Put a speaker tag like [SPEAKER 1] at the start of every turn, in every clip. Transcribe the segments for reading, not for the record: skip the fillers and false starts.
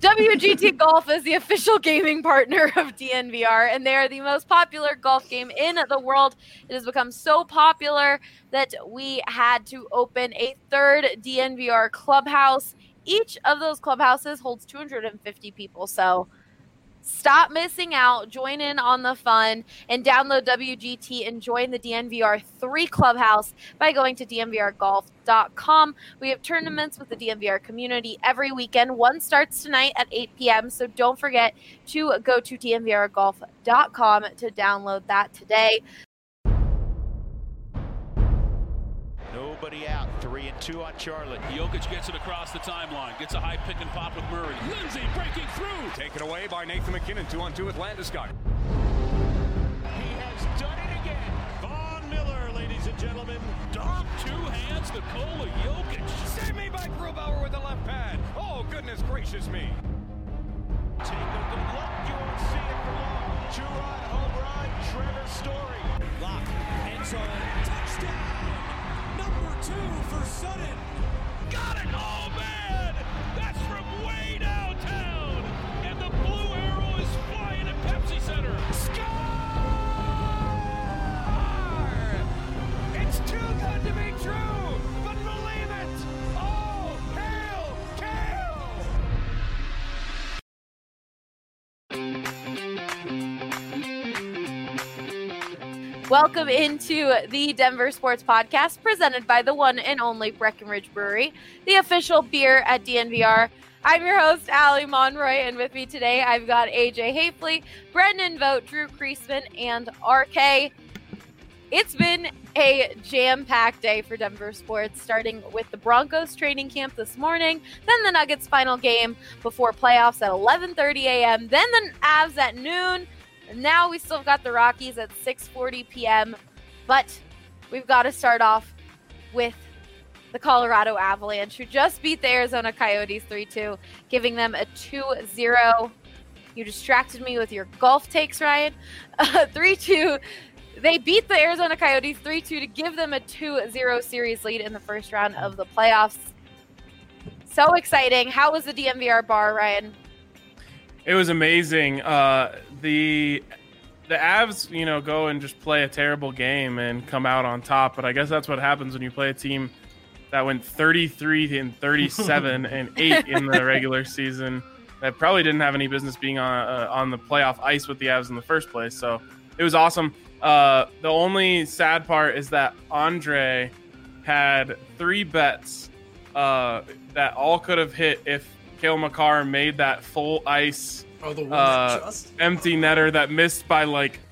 [SPEAKER 1] WGT Golf is the official gaming partner of DNVR, and they are the most popular golf game in the world. It has become so popular that we had to open a third DNVR clubhouse. Each of those clubhouses holds 250 people, so stop missing out. Join in on the fun and download WGT and join the DNVR 3 Clubhouse by going to dnvrgolf.com. We have tournaments with the DNVR community every weekend. One starts tonight at 8 p.m., so don't forget to go to dnvrgolf.com to download that today.
[SPEAKER 2] Nobody out. 3-2 on Charlotte.
[SPEAKER 3] Jokic gets it across the timeline. Gets a high pick and pop with Murray. Lindsay breaking through.
[SPEAKER 4] Taken away by Nathan McKinnon. 2-on-2 with Landeskog.
[SPEAKER 2] He has done it again.
[SPEAKER 3] Von Miller, ladies and gentlemen. Dom, 2 hands, Nikola Jokic.
[SPEAKER 4] Save me by Grubauer with the left pad. Oh, goodness gracious me.
[SPEAKER 2] Take a good look. You won't see it for long. 2-run home run. Trevor Story.
[SPEAKER 3] Lock. End zone. Touchdown. Number 2 for Sutton. Got it! Oh, man! That's from way downtown! And the blue arrow is flying at Pepsi Center.
[SPEAKER 2] Score! It's too good to be true, but believe it! Oh, hail, Kale!
[SPEAKER 1] Welcome into the Denver Sports Podcast, presented by the one and only Breckenridge Brewery, the official beer at DNVR. I'm your host, Allie Monroy, and with me today, I've got AJ Hafley, Brendan Vogt, Drew Kreisman, and RK. It's been a jam-packed day for Denver sports, starting with the Broncos training camp this morning, then the Nuggets final game before playoffs at 11:30 a.m., then the Avs at noon. Now we still got the Rockies at 6:40 p.m., but we've got to start off with the Colorado Avalanche, who just beat the Arizona Coyotes 3-2, giving them a 2-0. You distracted me with your golf takes, Ryan. 3-2. They beat the Arizona Coyotes 3-2 to give them a 2-0 series lead in the first round of the playoffs. So exciting. How was the DNVR bar, Ryan?
[SPEAKER 5] It was amazing. The Avs, go and just play a terrible game and come out on top. But I guess that's what happens when you play a team that went 33-37 and 8 in the regular season. That probably didn't have any business being on the playoff ice with the Avs in the first place. So it was awesome. The only sad part is that Andre had 3 bets that all could have hit if Cale Makar made that full ice empty netter that missed by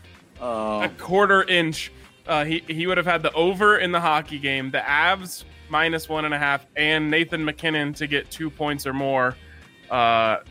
[SPEAKER 5] a quarter inch. He would have had the over in the hockey game, the Avs -1.5, and Nathan McKinnon to get 2 points or more. That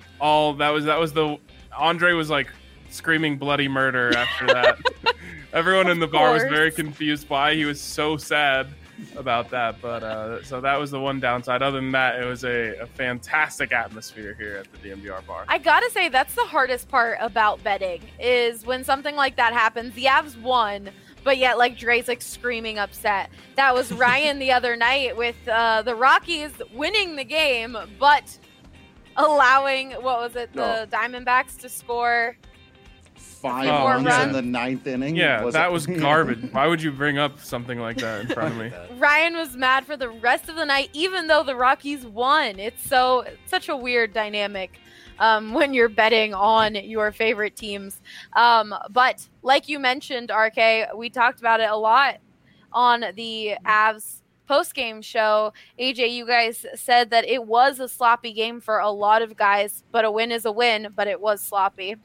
[SPEAKER 5] was the Andre was screaming bloody murder after that. Everyone in the bar was very confused why he was so sad about that, but so that was the one downside. Other than that, it was a fantastic atmosphere here at the DNVR bar.
[SPEAKER 1] I gotta say, that's the hardest part about betting, is when something like that happens. The Avs won, but yet Dre's screaming upset. That was Ryan the other night with the Rockies winning the game, but allowing the Diamondbacks to score
[SPEAKER 6] 5 runs in the 9th inning.
[SPEAKER 5] Yeah, that was garbage. Why would you bring up something like that in front of me?
[SPEAKER 1] Ryan was mad for the rest of the night, even though the Rockies won. It's such a weird dynamic when you're betting on your favorite teams. But like you mentioned, RK, we talked about it a lot on the Avs post-game show. AJ, you guys said that it was a sloppy game for a lot of guys, but a win is a win, but it was sloppy.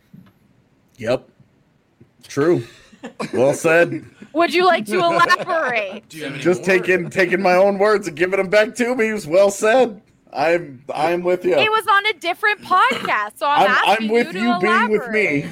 [SPEAKER 6] Yep. True. Well said.
[SPEAKER 1] Would you like to elaborate?
[SPEAKER 6] Just taking my own words and giving them back to me. It was well said. I'm with you.
[SPEAKER 1] It was on a different podcast, so I'm
[SPEAKER 6] with you being with me.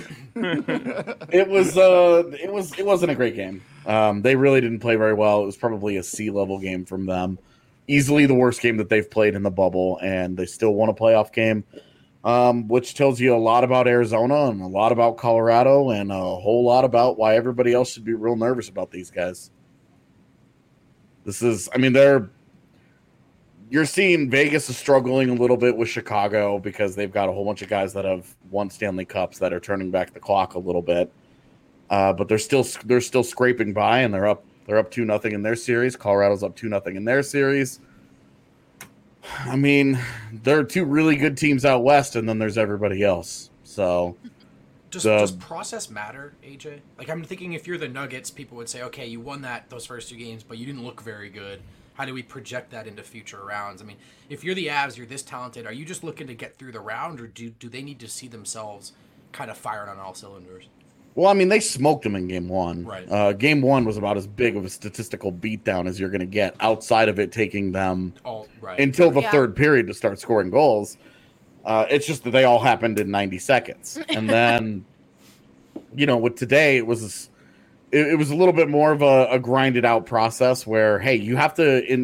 [SPEAKER 6] It wasn't a great game. They really didn't play very well. It was probably a C-level game from them. Easily the worst game that they've played in the bubble, and they still won a playoff game. Which tells you a lot about Arizona and a lot about Colorado and a whole lot about why everybody else should be real nervous about these guys. you're seeing Vegas is struggling a little bit with Chicago because they've got a whole bunch of guys that have won Stanley Cups that are turning back the clock a little bit. But they're still scraping by, and they're up 2-0 in their series. Colorado's up 2-0 in their series. I mean, there are two really good teams out west, and then there's everybody else. So
[SPEAKER 7] does process matter, AJ? Like, I'm thinking if you're the Nuggets, people would say, okay, you won those first 2 games, but you didn't look very good. How do we project that into future rounds? I mean, if you're the Avs, you're this talented, are you just looking to get through the round, or do they need to see themselves kind of firing on all cylinders?
[SPEAKER 6] Well, I mean, they smoked them in Game 1.
[SPEAKER 7] Right.
[SPEAKER 6] Game 1 was about as big of a statistical beatdown as you're going to get, outside of it taking them until the third period to start scoring goals. It's just that they all happened in 90 seconds. And then, with today, it was a little bit more of a grinded out process where, hey, you have to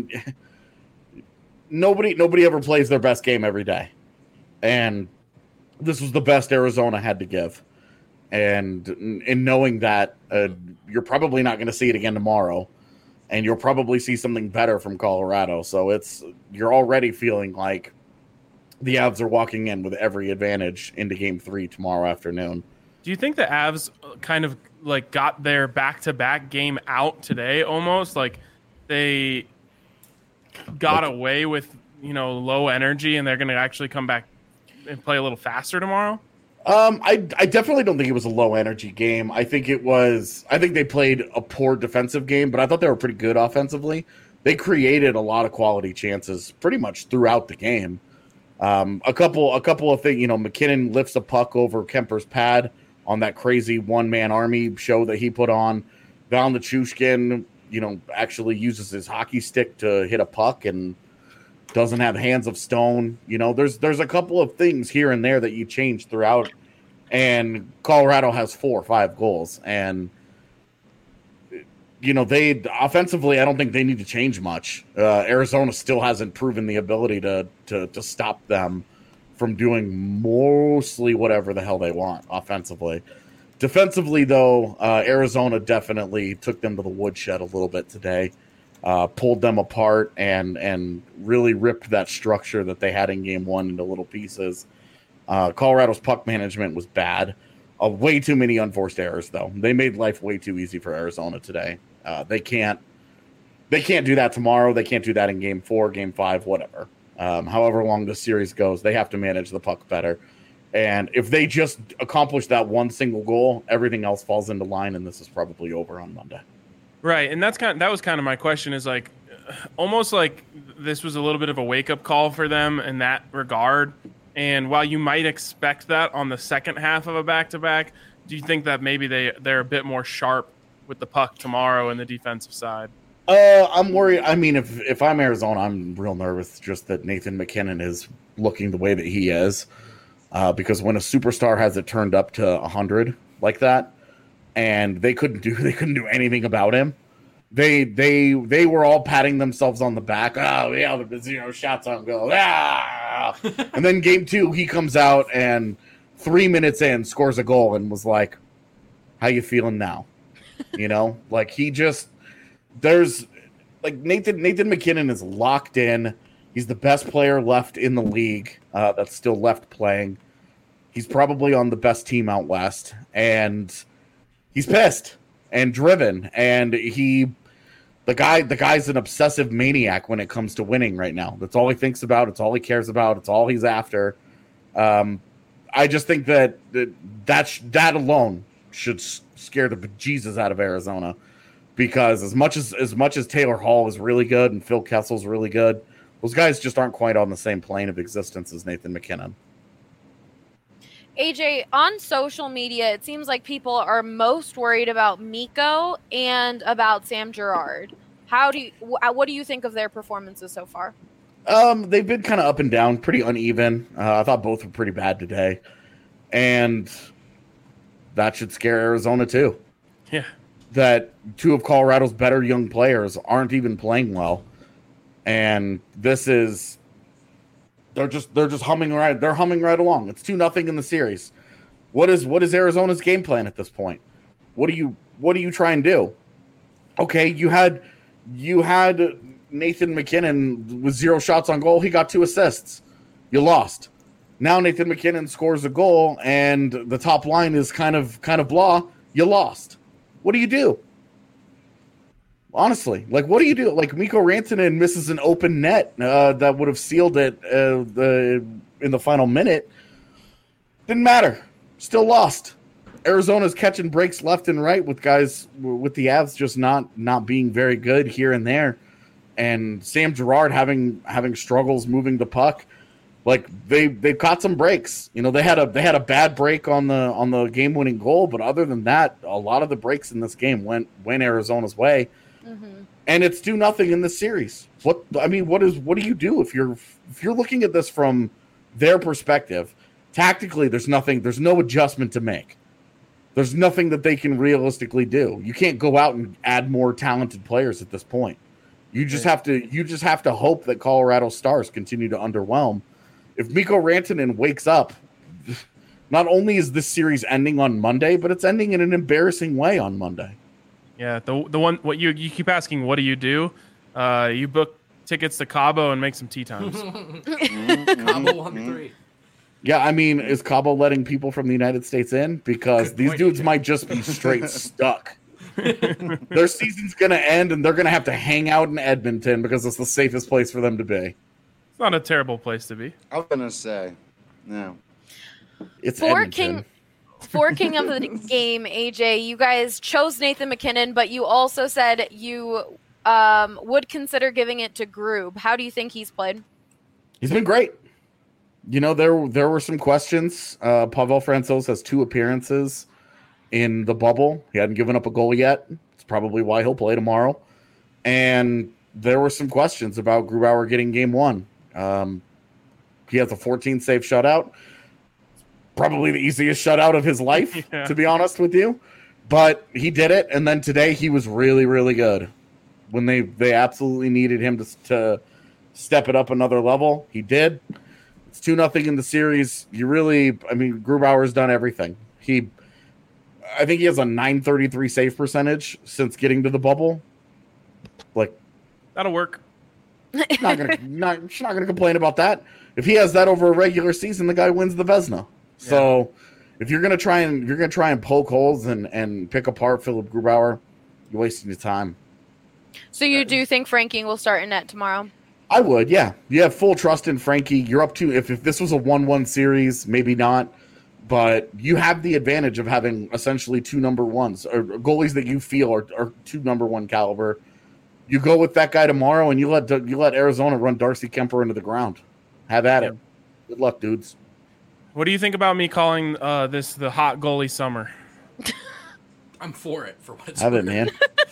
[SPEAKER 6] nobody ever plays their best game every day. And this was the best Arizona had to give. And in knowing that you're probably not going to see it again tomorrow, and you'll probably see something better from Colorado. So you're already feeling like the Avs are walking in with every advantage into Game 3 tomorrow afternoon.
[SPEAKER 5] Do you think the Avs kind of like got their back-to-back game out today almost? Like they got away with, low energy, and they're going to actually come back and play a little faster tomorrow?
[SPEAKER 6] I definitely don't think it was a low energy game. I think they played a poor defensive game, but I thought they were pretty good offensively. They created a lot of quality chances pretty much throughout the game. A couple of things, McKinnon lifts a puck over Kemper's pad on that crazy one-man army show that he put on. Val Nichushkin, actually uses his hockey stick to hit a puck and doesn't have hands of stone. There's a couple of things here and there that you change throughout, and Colorado has 4 or 5 goals. And, they offensively, I don't think they need to change much. Arizona still hasn't proven the ability to stop them from doing mostly whatever the hell they want offensively. Defensively, though, Arizona definitely took them to the woodshed a little bit today. Pulled them apart and really ripped that structure that they had in Game 1 into little pieces. Colorado's puck management was bad. Way too many unforced errors, though. They made life way too easy for Arizona today. They can't do that tomorrow. They can't do that in Game 4, Game 5, whatever. However long the series goes, they have to manage the puck better. And if they just accomplish that one single goal, everything else falls into line, and this is probably over on Monday.
[SPEAKER 5] Right, and that was kind of my question, is like almost like this was a little bit of a wake-up call for them in that regard. And while you might expect that on the second half of a back-to-back, do you think that maybe they're a bit more sharp with the puck tomorrow in the defensive side?
[SPEAKER 6] I'm worried. I mean, if I'm Arizona, I'm real nervous just that Nathan McKinnon is looking the way that he is. Because when a superstar has it turned up to 100 like that, and they couldn't do anything about him. They were all patting themselves on the back. Oh yeah, the 0 shots on goal. Ah! And then Game 2, he comes out and 3 minutes in scores a goal and was like, "How you feeling now?" Like there's like Nathan McKinnon is locked in. He's the best player left in the league that's still left playing. He's probably on the best team out west, and he's pissed and driven, and the guy's an obsessive maniac when it comes to winning right now. That's all he thinks about. It's all he cares about. It's all he's after. I just think that alone should scare the bejesus out of Arizona, because as much as Taylor Hall is really good and Phil Kessel's really good, those guys just aren't quite on the same plane of existence as Nathan McKinnon.
[SPEAKER 1] AJ, on social media, it seems like people are most worried about Mikko and about Sam Girard. What do you think of their performances so far?
[SPEAKER 6] They've been kind of up and down, pretty uneven. I thought both were pretty bad today, and that should scare Arizona too.
[SPEAKER 5] Yeah,
[SPEAKER 6] that 2 of Colorado's better young players aren't even playing well, and they're just humming right. They're humming right along. It's 2-0 in the series. What is Arizona's game plan at this point? What do you try and do? Okay, you had Nathan McKinnon with 0 shots on goal, he got 2 assists. You lost. Now Nathan McKinnon scores a goal, and the top line is kind of blah. You lost. What do you do? Honestly, like, what do you do? Like, Mikko Rantanen misses an open net that would have sealed it in the final minute. Didn't matter. Still lost. Arizona's catching breaks left and right with guys with the Avs just not being very good here and there, and Sam Girard having struggles moving the puck. Like, they've caught some breaks. You know, they had a bad break on the game winning goal, but other than that, a lot of the breaks in this game went Arizona's way. Mm-hmm. And it's 2-0 in this series. What do you do if you're looking at this from their perspective? Tactically, there's no adjustment to make. There's nothing that they can realistically do. You can't go out and add more talented players at this point. You just have to hope that Colorado Stars continue to underwhelm. If Mikko Rantanen wakes up, not only is this series ending on Monday, but it's ending in an embarrassing way on Monday.
[SPEAKER 5] Yeah, the one what you keep asking, what do? You book tickets to Cabo and make some tea times.
[SPEAKER 7] Cabo on 3.
[SPEAKER 6] Yeah, I mean, is Cabo letting people from the United States in? Because these dudes might just be straight stuck. Their season's going to end, and they're going to have to hang out in Edmonton because it's the safest place for them to be.
[SPEAKER 5] It's not a terrible place to be.
[SPEAKER 8] I was going to say, no.
[SPEAKER 6] It's
[SPEAKER 1] For
[SPEAKER 6] Edmonton.
[SPEAKER 1] King of the game, AJ, you guys chose Nathan McKinnon, but you also said you would consider giving it to Grube. How do you think he's played?
[SPEAKER 6] He's been great. You know, there were some questions. Pavel Francouz has 2 appearances in the bubble. He hadn't given up a goal yet. It's probably why he'll play tomorrow. And there were some questions about Grubauer getting game 1. He has a 14-save shutout. Probably the easiest shutout of his life, to be honest with you. But he did it, and then today he was really, really good. When they absolutely needed him to step it up another level, he did. It's 2-0 in the series. Grubauer's done everything. I think he has a .933 save percentage since getting to the bubble. Like,
[SPEAKER 5] that'll work.
[SPEAKER 6] She's not gonna complain about that. If he has that over a regular season, the guy wins the Vezina. Yeah. So if you're gonna try and poke holes and pick apart Philip Grubauer, you're wasting your time.
[SPEAKER 1] So you do think Frankie will start in net tomorrow?
[SPEAKER 6] I would, yeah. You have full trust in Frankie. You're up to if this was a 1-1 series, maybe not, but you have the advantage of having essentially 2 number ones or goalies that you feel are 2 number 1 caliber. You go with that guy tomorrow, and you let Arizona run Darcy Kemper into the ground. Have at it. Good luck, dudes.
[SPEAKER 5] What do you think about me calling this the hot goalie summer?
[SPEAKER 7] I'm for it. For what's
[SPEAKER 6] have it, man.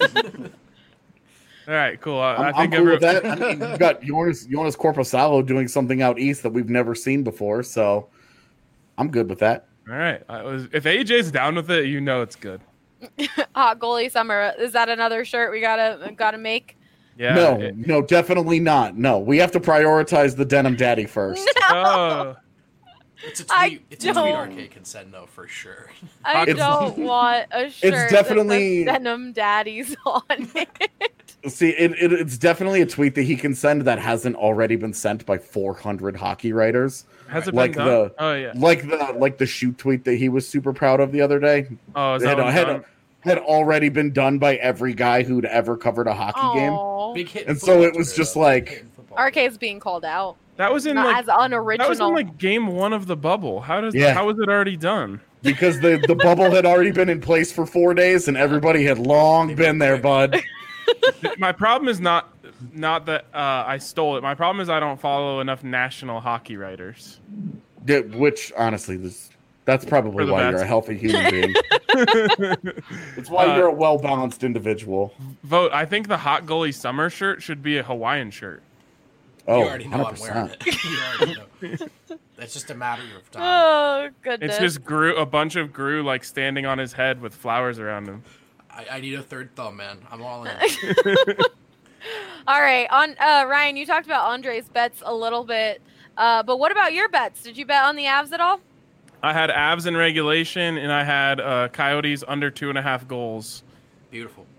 [SPEAKER 5] All right, cool.
[SPEAKER 6] I think I'm cool with that. I mean, you've got Jonas Korpisalo doing something out east that we've never seen before, so I'm good with that.
[SPEAKER 5] All right. If AJ's down with it, you know it's good.
[SPEAKER 1] Hot goalie summer. Is that another shirt we gotta make?
[SPEAKER 5] Yeah.
[SPEAKER 6] No, definitely not. No, we have to prioritize the denim daddy first.
[SPEAKER 5] No.
[SPEAKER 7] It's a tweet. It's a tweet RK can send though for sure.
[SPEAKER 1] I don't want a shirt.
[SPEAKER 6] It's definitely
[SPEAKER 1] that says denim daddies on it.
[SPEAKER 6] See, it's definitely a tweet that he can send that hasn't already been sent by 400 hockey writers.
[SPEAKER 5] Has it been done?
[SPEAKER 6] Like the shoot tweet that he was super proud of the other day.
[SPEAKER 5] Oh, is that
[SPEAKER 6] had already been done by every guy who'd ever covered a hockey game.
[SPEAKER 7] Big hit.
[SPEAKER 6] And so it was just like
[SPEAKER 1] RK's being called out.
[SPEAKER 5] That was in
[SPEAKER 1] as unoriginal.
[SPEAKER 5] That was in game 1 of the bubble. How was it already done?
[SPEAKER 6] Because the bubble had already been in place for 4 days and everybody had long been there, bud.
[SPEAKER 5] My problem is not that I stole it. My problem is I don't follow enough national hockey writers.
[SPEAKER 6] Which honestly, that's probably why you're a healthy human being. It's why you're a well-balanced individual.
[SPEAKER 5] Vote. I think the hot goalie summer shirt should be a Hawaiian shirt.
[SPEAKER 6] Oh,
[SPEAKER 7] you already know
[SPEAKER 6] 100%.
[SPEAKER 7] I'm wearing it. You already know. That's just a matter of time.
[SPEAKER 1] Oh, goodness.
[SPEAKER 5] It's just a bunch of Gru like standing on his head with flowers around him.
[SPEAKER 7] I need a third thumb, man. I'm all in.
[SPEAKER 1] All right. Ryan, you talked about Andre's bets a little bit, but what about your bets? Did you bet on the Avs at all?
[SPEAKER 5] I had Avs in regulation, and I had Coyotes under 2.5 goals.
[SPEAKER 7] Beautiful.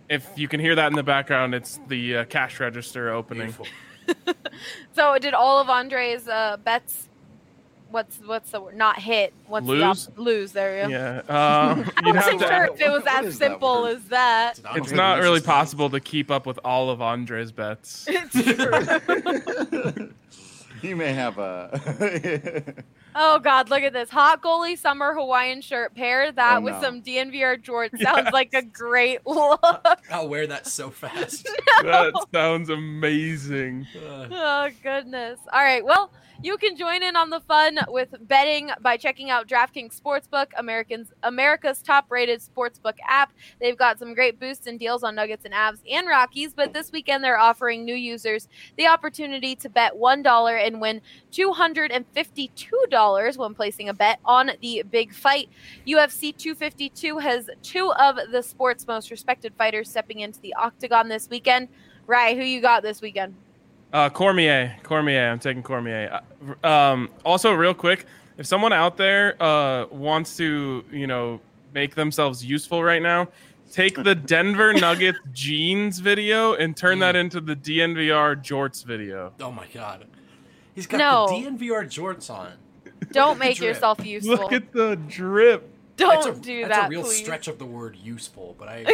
[SPEAKER 5] if you can hear that in the background, it's the cash register opening.
[SPEAKER 7] Beautiful.
[SPEAKER 1] So did all of Andre's bets? What's the word? Not hit. What's
[SPEAKER 5] Lose?
[SPEAKER 1] Lose. There you go.
[SPEAKER 5] Yeah.
[SPEAKER 1] I
[SPEAKER 5] You'd have
[SPEAKER 1] wasn't
[SPEAKER 5] to.
[SPEAKER 1] sure if it was
[SPEAKER 8] What
[SPEAKER 1] as
[SPEAKER 8] is that
[SPEAKER 1] simple
[SPEAKER 8] word?
[SPEAKER 1] as that.
[SPEAKER 7] Did Andre
[SPEAKER 5] It's not
[SPEAKER 7] lose
[SPEAKER 5] really
[SPEAKER 7] his bets?
[SPEAKER 5] possible to keep up with all of Andre's bets.
[SPEAKER 1] It's true.
[SPEAKER 8] He may have a.
[SPEAKER 1] Oh God, look at this hot goalie summer Hawaiian shirt. Pair that
[SPEAKER 8] Oh,
[SPEAKER 1] with
[SPEAKER 8] no.
[SPEAKER 1] some DNVR jorts. Sounds like a great look.
[SPEAKER 7] I'll wear that so fast.
[SPEAKER 5] That sounds amazing.
[SPEAKER 1] Oh goodness. All right. Well, you can join in on the fun with betting by checking out DraftKings Sportsbook, America's top-rated sportsbook app. They've got some great boosts and deals on Nuggets and Avs and Rockies, but this weekend they're offering new users the opportunity to bet $1 and win $252 when placing a bet on the big fight. UFC 252 has two of the sport's most respected fighters stepping into the octagon this weekend. Right, who you got this weekend?
[SPEAKER 5] Cormier. I'm taking Cormier. Also, real quick, if someone out there wants to, make themselves useful right now, take the Denver Nuggets jeans video and turn that into the DNVR jorts video.
[SPEAKER 7] Oh my God. He's got
[SPEAKER 1] No.
[SPEAKER 7] the DNVR jorts on.
[SPEAKER 1] Don't make
[SPEAKER 7] drip.
[SPEAKER 1] yourself useful.
[SPEAKER 5] Look at the drip.
[SPEAKER 1] Don't do
[SPEAKER 7] That's
[SPEAKER 1] that,
[SPEAKER 7] a real
[SPEAKER 1] please.
[SPEAKER 7] stretch of the word useful, but I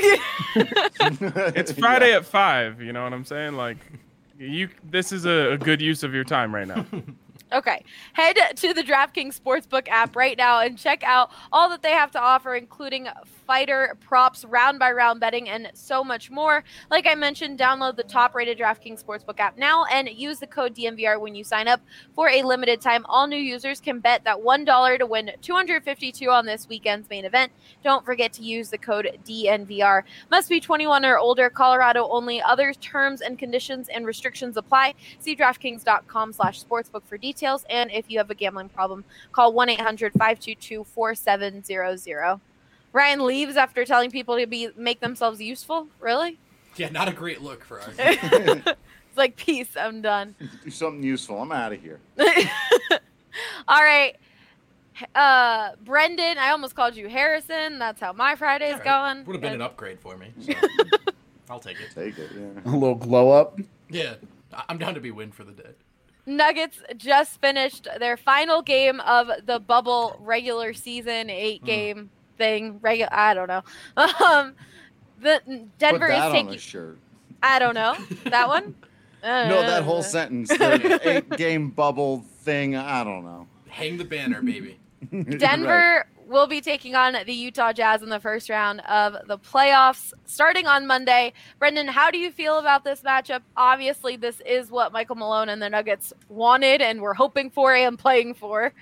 [SPEAKER 5] It's Friday at 5. You know what I'm saying? Like, this is a good use of your time right now.
[SPEAKER 1] Okay. Head to the DraftKings Sportsbook app right now and check out all that they have to offer, including fighter props, round-by-round betting, and so much more. Like I mentioned, download the top-rated DraftKings Sportsbook app now and use the code DNVR when you sign up. For a limited time, all new users can bet that $1 to win $252 on this weekend's main event. Don't forget to use the code DNVR. Must be 21 or older, Colorado only. Other terms and conditions and restrictions apply. See DraftKings.com/sportsbook for details. And if you have a gambling problem, call 1-800-522-4700. Ryan leaves after telling people to make themselves useful. Really?
[SPEAKER 7] yeah, not a great look for us.
[SPEAKER 1] It's like, peace, I'm done.
[SPEAKER 8] Do something useful. I'm out of here.
[SPEAKER 1] All right. Brendan, I almost called you Harrison. That's how my Friday's going.
[SPEAKER 7] Would have been an upgrade for me. So. I'll take it.
[SPEAKER 8] Take it. Yeah.
[SPEAKER 6] A little glow up.
[SPEAKER 7] Yeah, I'm down to be win for the day.
[SPEAKER 1] Nuggets just finished their final game of the bubble regular season 8-game thing. I don't know. The Denver
[SPEAKER 8] Put that
[SPEAKER 1] is
[SPEAKER 8] on a
[SPEAKER 1] taking.
[SPEAKER 8] shirt.
[SPEAKER 1] I don't know that one.
[SPEAKER 8] No, that whole sentence. The 8-game bubble thing. I don't know.
[SPEAKER 7] Hang the banner, baby.
[SPEAKER 1] Denver will be taking on the Utah Jazz in the first round of the playoffs starting on Monday. Brendan, how do you feel about this matchup? Obviously, this is what Michael Malone and the Nuggets wanted and were hoping for and playing for.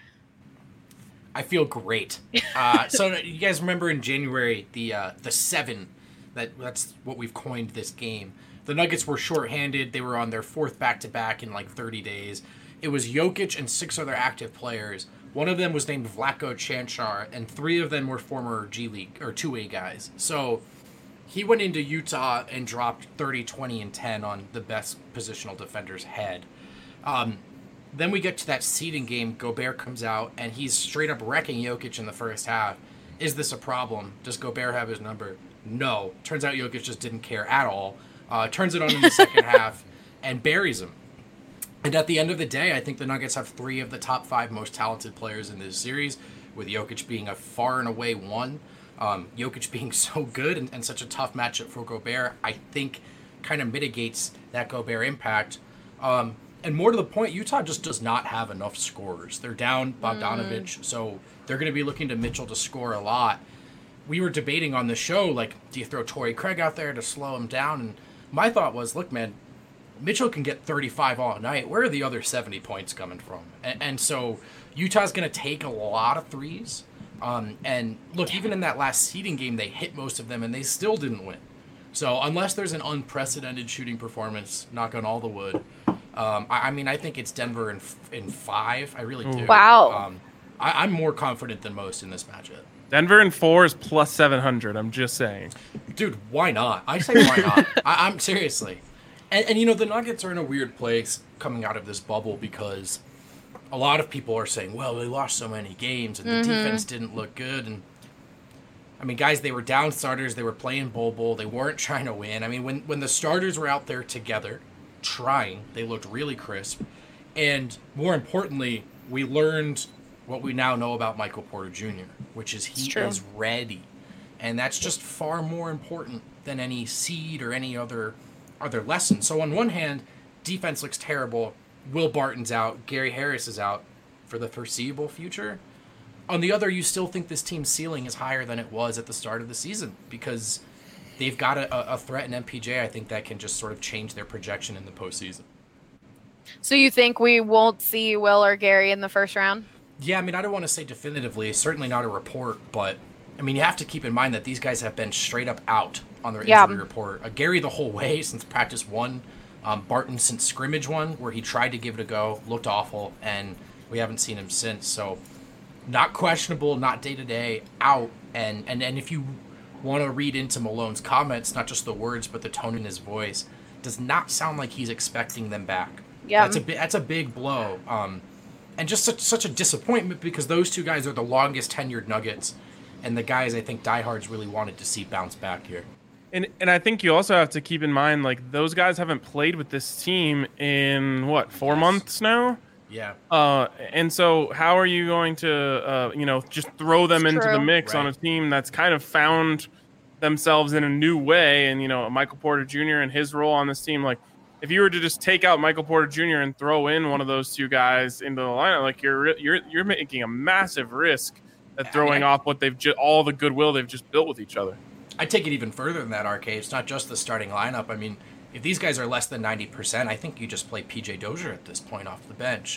[SPEAKER 7] I feel great. So you guys remember in January the 7? That's what we've coined this game. The Nuggets were shorthanded. They were on their fourth back-to-back in like 30 days. It was Jokic and 6 other active players. One of them was named Vlatko Cancar, and 3 of them were former G League or 2A guys. So he went into Utah and dropped 30, 20, and 10 on the best positional defender's head. Then we get to that seeding game. Gobert comes out, and he's straight up wrecking Jokic in the first half. Is this a problem? Does Gobert have his number? No. Turns out Jokic just didn't care at all. Turns it on in the second half and buries him. And at the end of the day, I think the Nuggets have 3 of the top 5 most talented players in this series, with Jokic being a far and away one. Jokic being so good and such a tough matchup for Gobert, I think kind of mitigates that Gobert impact. And more to the point, Utah just does not have enough scorers. They're down Bogdanovich, so they're going to be looking to Mitchell to score a lot. We were debating on the show, like, do you throw Torrey Craig out there to slow him down? And my thought was, look, man, Mitchell can get 35 all night. Where are the other 70 points coming from? And so Utah's going to take a lot of threes. And look, even in that last seeding game, they hit most of them, and they still didn't win. So unless there's an unprecedented shooting performance, knock on all the wood, I think it's Denver in 5. I really do.
[SPEAKER 1] Wow.
[SPEAKER 7] I'm more confident than most in this matchup.
[SPEAKER 5] Denver in 4 is plus 700. I'm just saying.
[SPEAKER 7] Dude, why not? I say why not. I'm seriously. And the Nuggets are in a weird place coming out of this bubble because a lot of people are saying, well, they lost so many games and the defense didn't look good. And I mean, guys, they were down starters. They were playing Bol. They weren't trying to win. I mean, when the starters were out there together, trying, they looked really crisp. And more importantly, we learned what we now know about Michael Porter Jr., which is he is ready. And that's just far more important than any seed or any other lesson. So on one hand, defense looks terrible. Will Barton's out. Gary Harris is out for the foreseeable future. On the other, you still think this team's ceiling is higher than it was at the start of the season because they've got a threat in MPJ, I think, that can just sort of change their projection in the postseason.
[SPEAKER 1] So you think we won't see Will or Gary in the first round?
[SPEAKER 7] Yeah, I mean, I don't want to say definitively, certainly not a report, but, I mean, you have to keep in mind that these guys have been straight up out on their injury report. Gary the whole way since practice 1, Barton since scrimmage 1, where he tried to give it a go, looked awful, and we haven't seen him since. So not questionable, not day-to-day, out. And if you want to read into Malone's comments, not just the words, but the tone in his voice, does not sound like he's expecting them back.
[SPEAKER 1] Yeah,
[SPEAKER 7] that's a big blow. And just such a disappointment because those two guys are the longest tenured Nuggets and the guys I think diehards really wanted to see bounce back here.
[SPEAKER 5] And I think you also have to keep in mind, like, those guys haven't played with this team in, 4 months now?
[SPEAKER 7] Yeah.
[SPEAKER 5] And so how are you going to, just throw them into the mix on a team that's kind of found themselves in a new way? And, Michael Porter Jr. and his role on this team, like, if you were to just take out Michael Porter Jr. and throw in one of those two guys into the lineup, like, you're making a massive risk at throwing off what they've all the goodwill they've just built with each other.
[SPEAKER 7] I take it even further than that, RK. It's not just the starting lineup. I mean, if these guys are less than 90%, I think you just play PJ Dozier at this point off the bench.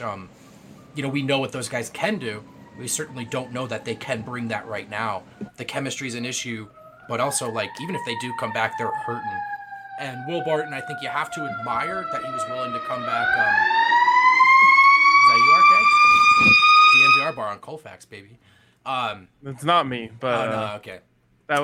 [SPEAKER 7] We know what those guys can do. We certainly don't know that they can bring that right now. The chemistry's an issue, but also, like, even if they do come back, they're hurting. And Will Barton, I think you have to admire that he was willing to come back. Is that you, RK? DNVR bar on Colfax, baby.
[SPEAKER 5] It's not me, but
[SPEAKER 7] no, okay.
[SPEAKER 5] That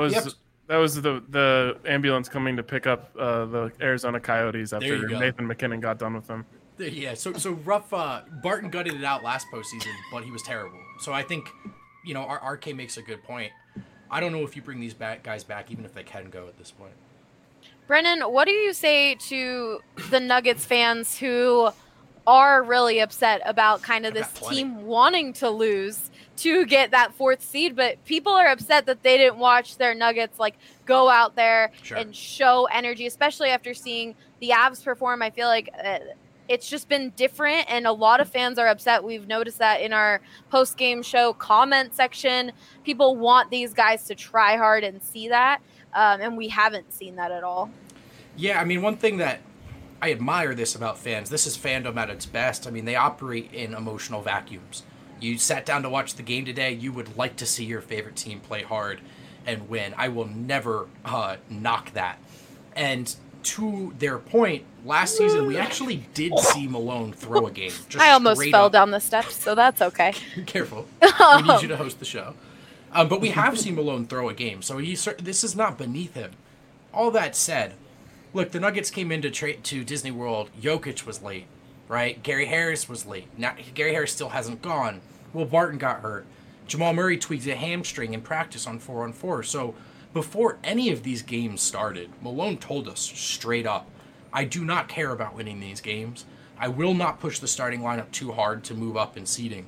[SPEAKER 5] was the ambulance coming to pick up the Arizona Coyotes after Nathan McKinnon got done with them.
[SPEAKER 7] Yeah, so rough. Barton gutted it out last postseason, but he was terrible. So I think, our RK makes a good point. I don't know if you bring these guys back, even if they can go at this point.
[SPEAKER 1] Brennan, what do you say to the Nuggets fans who are really upset about kind of this team wanting to lose to get that 4th seed, but people are upset that they didn't watch their Nuggets go out there and show energy, especially after seeing the Avs perform. I feel like it's just been different, and a lot of fans are upset. We've noticed that in our post-game show comment section. People want these guys to try hard and see that, and we haven't seen that at all.
[SPEAKER 7] Yeah, I mean, one thing that I admire this about fans, this is fandom at its best. I mean, they operate in emotional vacuums. You sat down to watch the game today, you would like to see your favorite team play hard and win. I will never knock that. And to their point, last season we actually did see Malone throw a game.
[SPEAKER 1] I almost fell down the steps, so that's okay.
[SPEAKER 7] Careful. We need you to host the show. But we have seen Malone throw a game, so this is not beneath him. All that said, look, the Nuggets came into to Disney World. Jokic was late, right? Gary Harris was late. Now Gary Harris still hasn't gone. Will Barton got hurt. Jamal Murray tweaked a hamstring in practice on 4-on-4. So before any of these games started, Malone told us straight up, I do not care about winning these games. I will not push the starting lineup too hard to move up in seeding.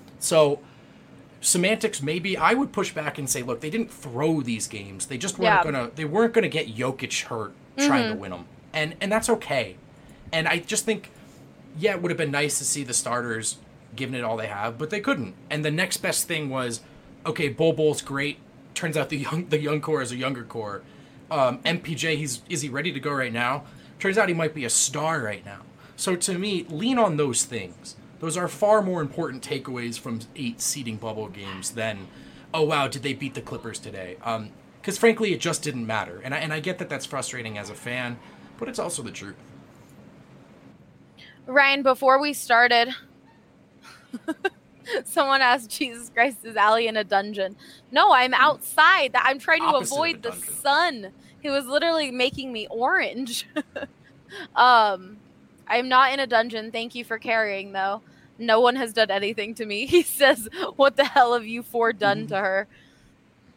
[SPEAKER 7] So semantics, maybe I would push back and say, look, they didn't throw these games. They just weren't gonna get Jokic hurt trying to win them, and that's okay. And I just think, it would have been nice to see the starters giving it all they have, but they couldn't. And the next best thing was, okay, Bol's great. Turns out the young core is a younger core. MPJ, is he ready to go right now? Turns out he might be a star right now. So to me, lean on those things. Those are far more important takeaways from 8 seeding bubble games than, oh wow, did they beat the Clippers today? Because frankly, it just didn't matter. And I get that that's frustrating as a fan, but it's also the truth.
[SPEAKER 1] Ryan, before we started, someone asked, Jesus Christ, is Allie in a dungeon? No, I'm outside. I'm trying to avoid the sun. He was literally making me orange. I'm not in a dungeon. Thank you for carrying, though. No one has done anything to me. He says, what the hell have you 4 done to her?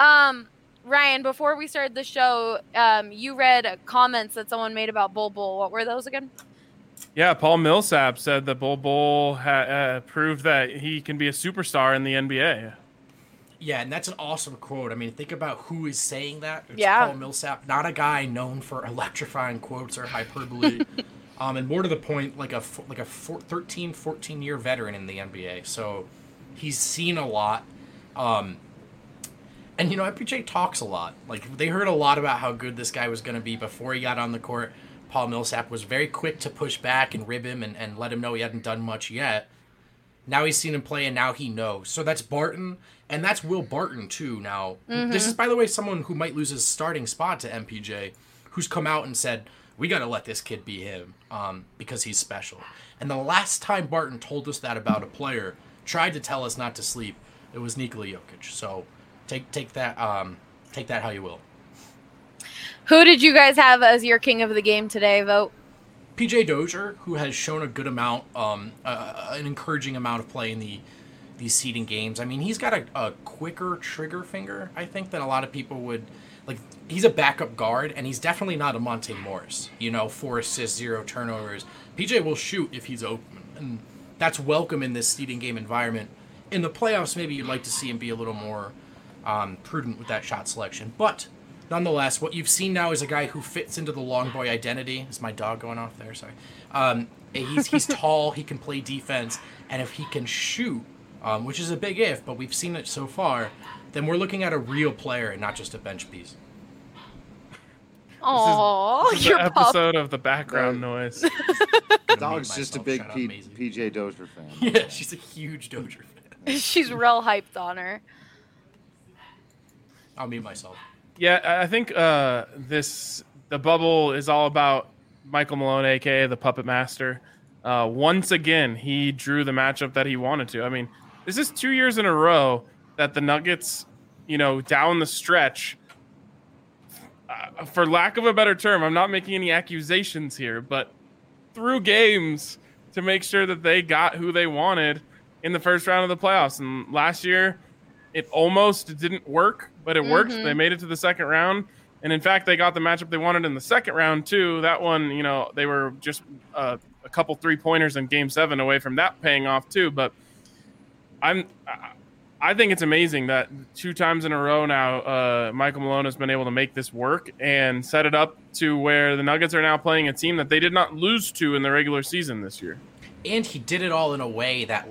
[SPEAKER 1] Ryan, before we started the show, you read comments that someone made about Bol Bol. What were those again?
[SPEAKER 5] Yeah, Paul Millsap said that Bol Bol proved that he can be a superstar in the NBA.
[SPEAKER 7] Yeah, and that's an awesome quote. I mean, think about who is saying that. It's
[SPEAKER 1] Yeah.
[SPEAKER 7] Paul Millsap, not a guy known for electrifying quotes or hyperbole. And more to the point, like a 13, 14-year veteran in the NBA. So he's seen a lot. And, MPJ talks a lot. Like, they heard a lot about how good this guy was going to be before he got on the court. Paul Millsap was very quick to push back and rib him and let him know he hadn't done much yet. Now he's seen him play, and now he knows. So that's Barton, and that's Will Barton, too, now. This is, by the way, someone who might lose his starting spot to MPJ, who's come out and said, we got to let this kid be him because he's special. And the last time Barton told us that about a player, tried to tell us not to sleep, it was Nikola Jokic. So take that how you will.
[SPEAKER 1] Who did you guys have as your king of the game today? Vote.
[SPEAKER 7] PJ Dozier, who has shown a good amount, an encouraging amount of play in these seeding games. I mean, he's got a quicker trigger finger, I think, than a lot of people would. Like, he's a backup guard, and he's definitely not a Monte Morris. 4 assists, 0 turnovers. PJ will shoot if he's open, and that's welcome in this seeding game environment. In the playoffs, maybe you'd like to see him be a little more prudent with that shot selection. But nonetheless, what you've seen now is a guy who fits into the long boy identity. Is my dog going off there? Sorry. He's tall. He can play defense, and if he can shoot, which is a big if, but we've seen it so far, then we're looking at a real player and not just a bench piece.
[SPEAKER 1] Oh,
[SPEAKER 5] This is the episode of the background noise.
[SPEAKER 8] Dog's just a big PJ Dozier fan.
[SPEAKER 7] Yeah, she's a huge Dozier fan.
[SPEAKER 1] She's real hyped on her.
[SPEAKER 7] I'll mute myself.
[SPEAKER 5] Yeah, I think the bubble is all about Michael Malone, aka the Puppet Master. Once again, he drew the matchup that he wanted to. I mean, this is 2 years in a row that the Nuggets, down the stretch, for lack of a better term, I'm not making any accusations here, but threw games to make sure that they got who they wanted in the first round of the playoffs. And last year, it almost didn't work, but it worked. They made it to the second round. And in fact, they got the matchup they wanted in the second round, too. That one, they were just a couple 3-pointers in Game 7 away from that paying off, too. But I think it's amazing that 2 times in a row now, Michael Malone has been able to make this work and set it up to where the Nuggets are now playing a team that they did not lose to in the regular season this year.
[SPEAKER 7] And he did it all in a way that,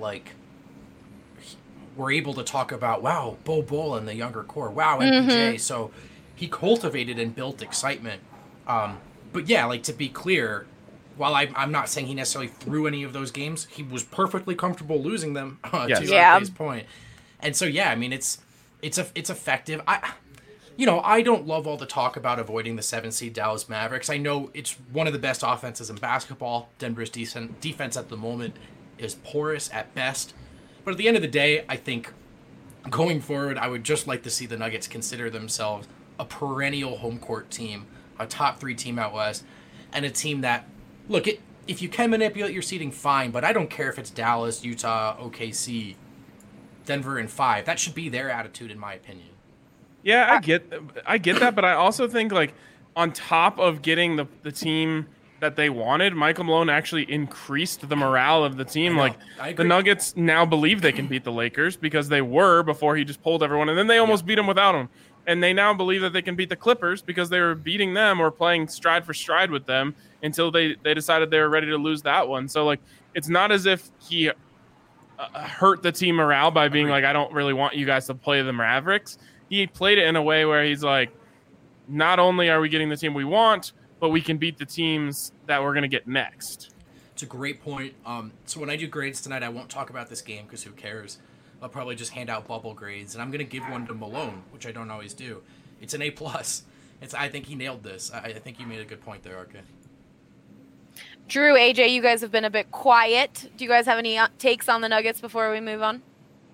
[SPEAKER 7] we're able to talk about, wow, Bol Bol and the younger core, wow, MPJ. So he cultivated and built excitement. But yeah, to be clear, while I'm not saying he necessarily threw any of those games, he was perfectly comfortable losing them, to RK's point. And so, yeah, I mean, it's effective. I don't love all the talk about avoiding the 7-seed Dallas Mavericks. I know it's one of the best offenses in basketball. Denver's defense at the moment is porous at best. But at the end of the day, I think going forward, I would just like to see the Nuggets consider themselves a perennial home court team, a top 3 team out west, and a team that, look, if you can manipulate your seeding, fine, but I don't care if it's Dallas, Utah, OKC, Denver, and 5. That should be their attitude, in my opinion.
[SPEAKER 5] Yeah, I get that, but I also think, on top of getting the team that they wanted, Michael Malone actually increased the morale of the team.
[SPEAKER 7] I agree.
[SPEAKER 5] The Nuggets now believe they can beat the Lakers because they were before he just pulled everyone, and then they almost beat him without him. And they now believe that they can beat the Clippers because they were beating them or playing stride for stride with them until they decided they were ready to lose that one. So, it's not as if he hurt the team morale by being I don't really want you guys to play the Mavericks. He played it in a way where he's not only are we getting the team we want, but we can beat the teams that we're going to get next.
[SPEAKER 7] It's a great point. So when I do grades tonight, I won't talk about this game because who cares? I'll probably just hand out bubble grades, and I'm going to give one to Malone, which I don't always do. It's an A+. I think he nailed this. I think you made a good point there, RK.
[SPEAKER 1] Drew, AJ, you guys have been a bit quiet. Do you guys have any takes on the Nuggets before we move on?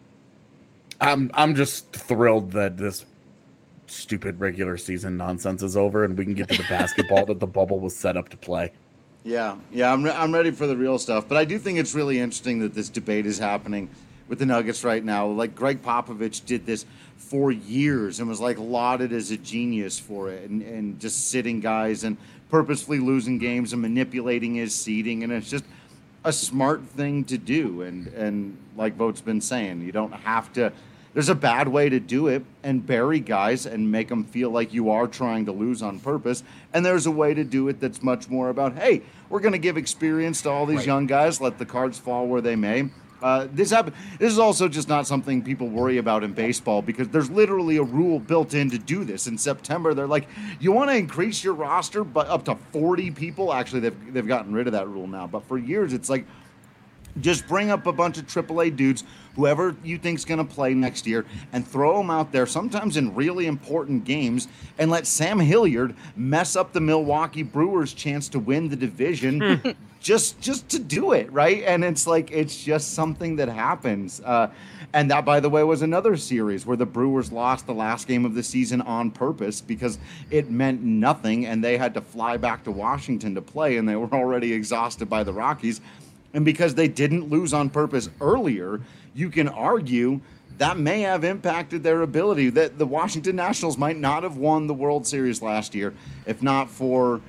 [SPEAKER 6] I'm just thrilled that this stupid regular season nonsense is over and we can get to the basketball that the bubble was set up to play.
[SPEAKER 8] Yeah, I'm ready for the real stuff. But I do think it's really interesting that this debate is happening with the Nuggets right now. Like Greg Popovich did this for years and was like lauded as a genius for it, and just sitting guys and purposefully losing games and manipulating his seeding, and it's just a smart thing to do. And like Vote's been saying, you don't have to. There's a bad way to do it and bury guys and make them feel like you are trying to lose on purpose. And there's a way to do it that's much more about, hey, we're going to give experience to all these young guys, let the cards fall where they may. This is also just not something people worry about in baseball, because there's literally a rule built in to do this. In September, they're like, you want to increase your roster but up to 40 people? Actually, they've gotten rid of that rule now. But for years, it's like, just bring up a bunch of AAA dudes, whoever you think's going to play next year, and throw them out there, sometimes in really important games, and let Sam Hilliard mess up the Milwaukee Brewers' chance to win the division just to do it, right? And it's like, it's just something that happens. And that, by the way, was another series where the Brewers lost the last game of the season on purpose because it meant nothing, and they had to fly back to Washington to play, and they were already exhausted by the Rockies. And because they didn't lose on purpose earlier, you can argue that may have impacted their ability. That the Washington Nationals might not have won the World Series last year if not for,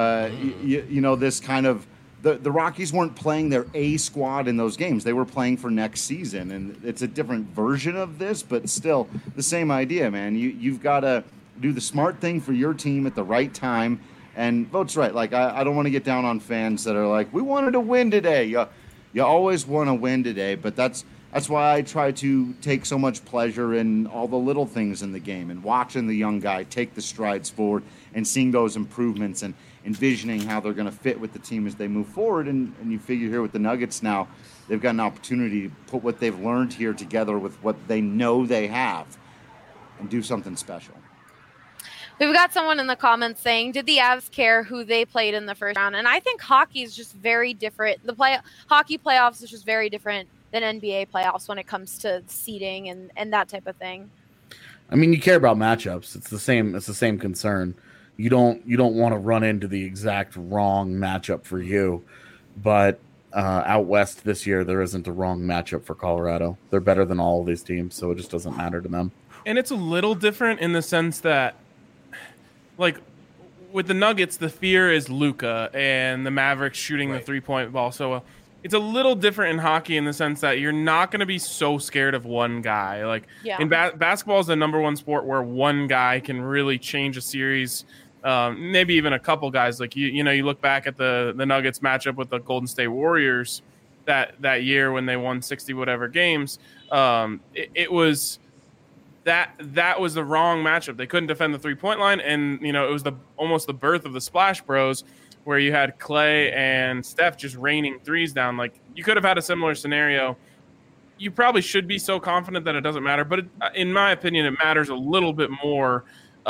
[SPEAKER 8] this kind of the Rockies weren't playing their A squad in those games. They were playing for next season, and it's a different version of this, but still the same idea, man. You've got to do the smart thing for your team at the right time. And Vote's right. Like, I don't want to get down on fans that are like, we wanted to win today. You always want to win today, but that's why I try to take so much pleasure in all the little things in the game and watching the young guy take the strides forward and seeing those improvements and envisioning how they're going to fit with the team as they move forward. And you figure here with the Nuggets now, they've got an opportunity to put what they've learned here together with what they know they have and do something special.
[SPEAKER 1] We've got someone in the comments saying, did the Avs care who they played in the first round? And I think hockey is just very different. Hockey playoffs is just very different than NBA playoffs when it comes to seeding and that type of thing.
[SPEAKER 6] I mean, you care about matchups. It's the same concern. You don't want to run into the exact wrong matchup for you. But out west this year, there isn't a wrong matchup for Colorado. They're better than all of these teams, so it just doesn't matter to them.
[SPEAKER 5] And it's a little different in the sense that, like, with the Nuggets, the fear is Luka and the Mavericks shooting the three-point ball so well. It's a little different in hockey in the sense that you're not going to be so scared of one guy. Like, in basketball is the number one sport where one guy can really change a series, maybe even a couple guys. Like, you look back at the Nuggets matchup with the Golden State Warriors that year when they won 60-whatever games. It was... That was the wrong matchup. They couldn't defend the three-point line, and it was almost the birth of the Splash Bros, where you had Clay and Steph just raining threes down. Like, you could have had a similar scenario. You probably should be so confident that it doesn't matter, but in my opinion, it matters a little bit more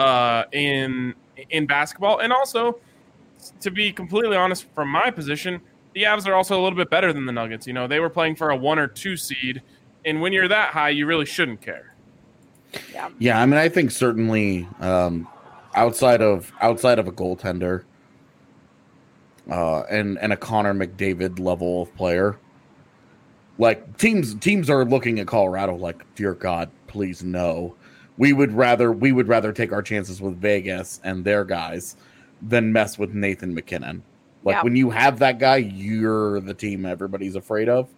[SPEAKER 5] in basketball. And also, to be completely honest, from my position, the Avs are also a little bit better than the Nuggets. They were playing for a 1 or 2 seed, and when you're that high, you really shouldn't care.
[SPEAKER 6] Yeah, I mean, I think certainly outside of a goaltender and a Connor McDavid level of player, like teams are looking at Colorado like, dear God, please no. We would rather take our chances with Vegas and their guys than mess with Nathan McKinnon. Like, when you have that guy, you're the team everybody's afraid of.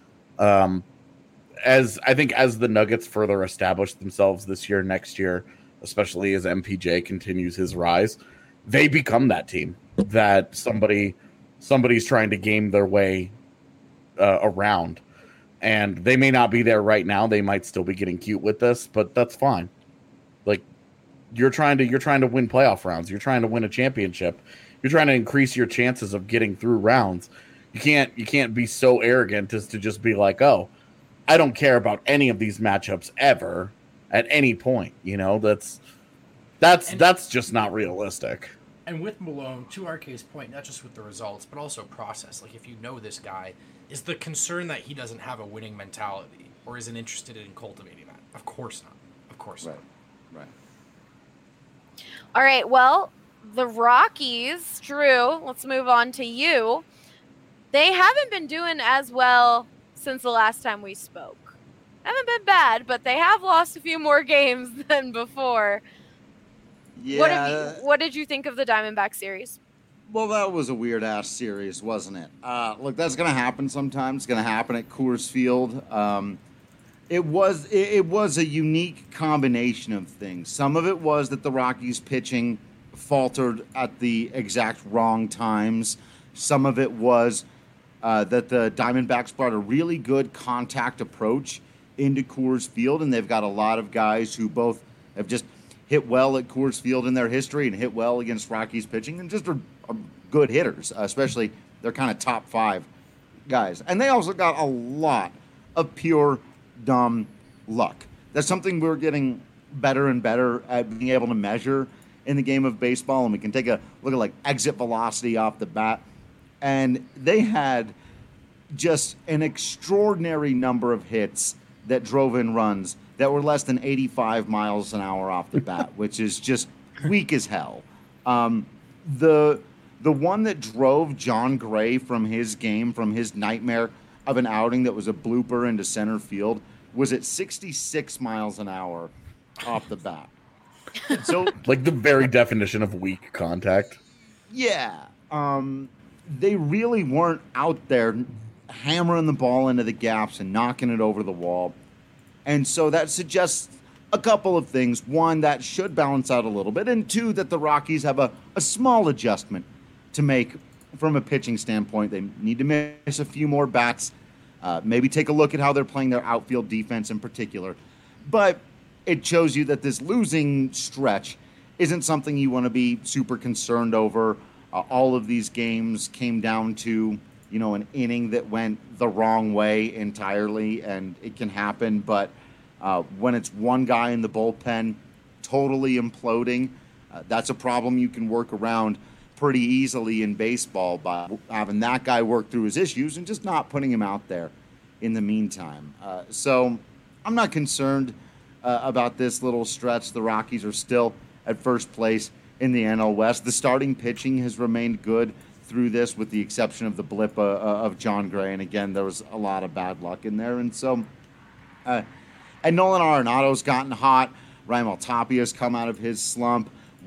[SPEAKER 6] As the Nuggets further establish themselves this year, next year, especially as MPJ continues his rise, they become that team that somebody's trying to game their way around. And they may not be there right now. They might still be getting cute with this, but that's fine. Like, you're trying to win playoff rounds. You're trying to win a championship. You're trying to increase your chances of getting through rounds. You can't be so arrogant as to just be like, oh, I don't care about any of these matchups ever at any point. That's just not realistic.
[SPEAKER 7] And with Malone, to RK's point, not just with the results, but also process. Like, if you know this guy, is the concern that he doesn't have a winning mentality or isn't interested in cultivating that? Of course not. Of course not.
[SPEAKER 8] Right.
[SPEAKER 1] All right, well, the Rockies, Drew, let's move on to you. They haven't been doing as well since the last time we spoke. haven't been bad, but they have lost a few more games than before.
[SPEAKER 8] Yeah.
[SPEAKER 1] What did you think of the Diamondback series?
[SPEAKER 8] Well, that was a weird-ass series, wasn't it? Look, that's going to happen sometimes. It's going to happen at Coors Field. It was a unique combination of things. Some of it was that the Rockies pitching faltered at the exact wrong times. Some of it was that the Diamondbacks brought a really good contact approach into Coors Field, and they've got a lot of guys who both have just hit well at Coors Field in their history and hit well against Rockies pitching and just are good hitters, especially they're kind of top 5 guys. And they also got a lot of pure dumb luck. That's something we're getting better and better at being able to measure in the game of baseball, and we can take a look at like exit velocity off the bat. And they had just an extraordinary number of hits that drove in runs that were less than 85 miles an hour off the bat, which is just weak as hell. The one that drove John Gray from his game, from his nightmare of an outing that was a blooper into center field, was at 66 miles an hour off the bat. So,
[SPEAKER 6] like the very definition of weak contact.
[SPEAKER 8] Yeah. They really weren't out there hammering the ball into the gaps and knocking it over the wall. And so that suggests a couple of things. One, that should balance out a little bit. And two, that the Rockies have a small adjustment to make from a pitching standpoint. They need to miss a few more bats. Maybe take a look at how they're playing their outfield defense in particular. But it shows you that this losing stretch isn't something you want to be super concerned over. All of these games came down to, an inning that went the wrong way entirely, and it can happen. But when it's one guy in the bullpen totally imploding, that's a problem you can work around pretty easily in baseball by having that guy work through his issues and just not putting him out there in the meantime. So I'm not concerned about this little stretch. The Rockies are still at first place in the NL West. The starting pitching has remained good through this, with the exception of the blip of John Gray. And again, there was a lot of bad luck in there. And so, and Nolan Arenado's gotten hot. Raimel Tapia's come out of his slump.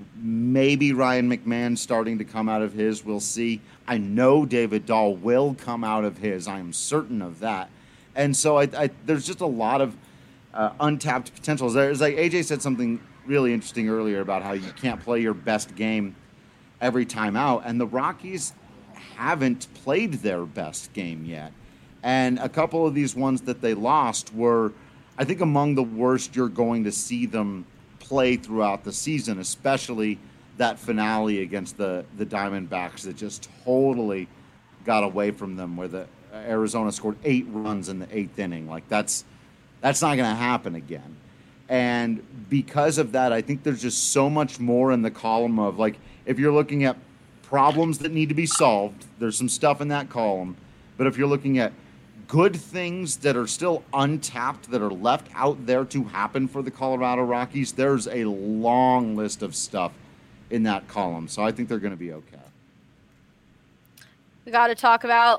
[SPEAKER 8] Maybe Ryan McMahon's starting to come out of his. We'll see. I know David Dahl will come out of his. I am certain of that. And so there's just a lot of untapped potentials. There's like AJ said something really interesting earlier about how you can't play your best game every time out, and the Rockies haven't played their best game yet. And a couple of these ones that they lost were, I think, among the worst you're going to see them play throughout the season, especially that finale against the Diamondbacks that just totally got away from them, where the Arizona scored 8 runs in the 8th inning. Like, that's not going to happen again. And because of that, I think there's just so much more in the column of, like, if you're looking at problems that need to be solved, there's some stuff in that column. But if you're looking at good things that are still untapped, that are left out there to happen for the Colorado Rockies, there's a long list of stuff in that column. So I think they're going to be okay.
[SPEAKER 1] We got to talk about.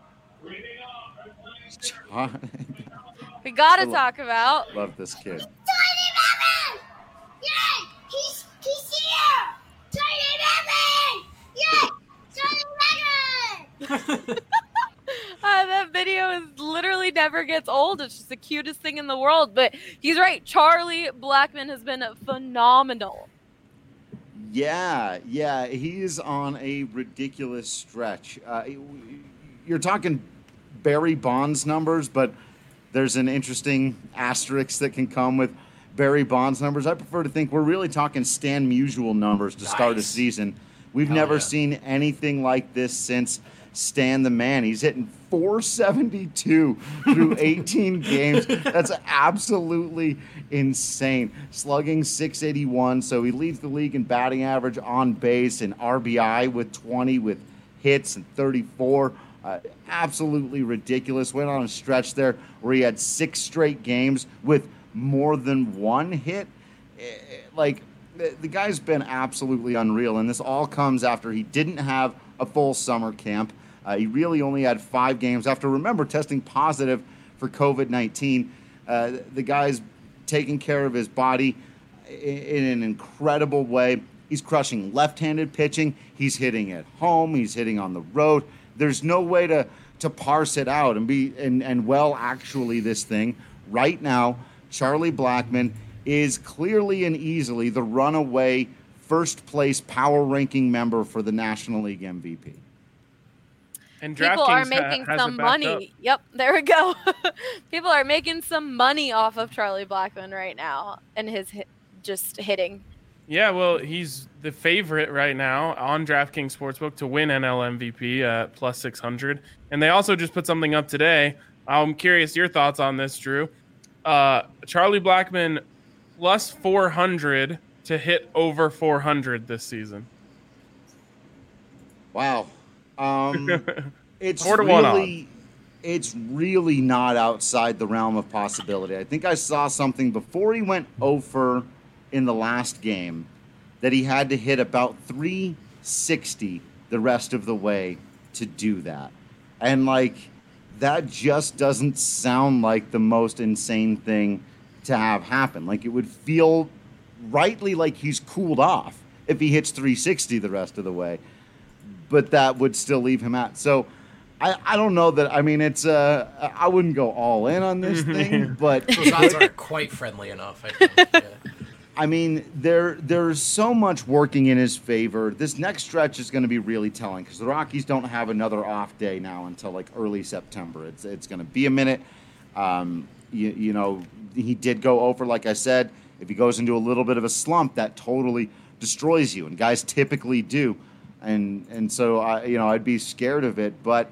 [SPEAKER 8] Love this kid.
[SPEAKER 9] Tiny Batman! Yay! He's here! Tiny Batman! Yay! Tiny Batman!
[SPEAKER 1] That video literally never gets old. It's just the cutest thing in the world. But he's right. Charlie Blackmon has been phenomenal.
[SPEAKER 8] Yeah, he's on a ridiculous stretch. You're talking Barry Bonds numbers, but there's an interesting asterisk that can come with Barry Bonds numbers. I prefer to think we're really talking Stan Musial numbers to start a season. We've never seen anything like this since Stan the Man. He's hitting 472 through 18 games. That's absolutely insane. Slugging 681, so he leads the league in batting average, on base, and RBI with 20, with hits and 34. Absolutely ridiculous. Went on a stretch there where he had 6 straight games with more than 1 hit. Like, the guy's been absolutely unreal, and this all comes after he didn't have a full summer camp. He really only had 5 games after, remember, testing positive for COVID-19. The guy's taking care of his body in an incredible way. He's crushing left-handed pitching. He's hitting at home. He's hitting on the road. There's no way to parse it out actually this thing right now, Charlie Blackmon is clearly and easily the runaway first place power ranking member for the National League MVP.
[SPEAKER 5] And
[SPEAKER 1] people are making some money.
[SPEAKER 5] Up.
[SPEAKER 1] Yep, there we go. People are making some money off of Charlie Blackmon right now and his just hitting.
[SPEAKER 5] Yeah, well, he's the favorite right now on DraftKings Sportsbook to win NL MVP at plus 600. And they also just put something up today. I'm curious your thoughts on this, Drew. Charlie Blackmon plus 400 to hit over 400 this season.
[SPEAKER 8] Wow. It's
[SPEAKER 5] 4-1
[SPEAKER 8] really, it's really not outside the realm of possibility. I think I saw something before he went 0 in the last game that he had to hit about 360 the rest of the way to do that. And that just doesn't sound like the most insane thing to have happen. Like, it would feel rightly like he's cooled off if he hits 360 the rest of the way, but that would still leave him out. So I don't know that. I mean, it's I wouldn't go all in on this thing, but
[SPEAKER 7] those odds aren't quite friendly enough, I think. Yeah.
[SPEAKER 8] I mean, there's so much working in his favor. This next stretch is going to be really telling because the Rockies don't have another off day now until early September. It's going to be a minute. You know, he did go over, like I said. If he goes into a little bit of a slump, that totally destroys you, and guys typically do. And so I'd be scared of it, but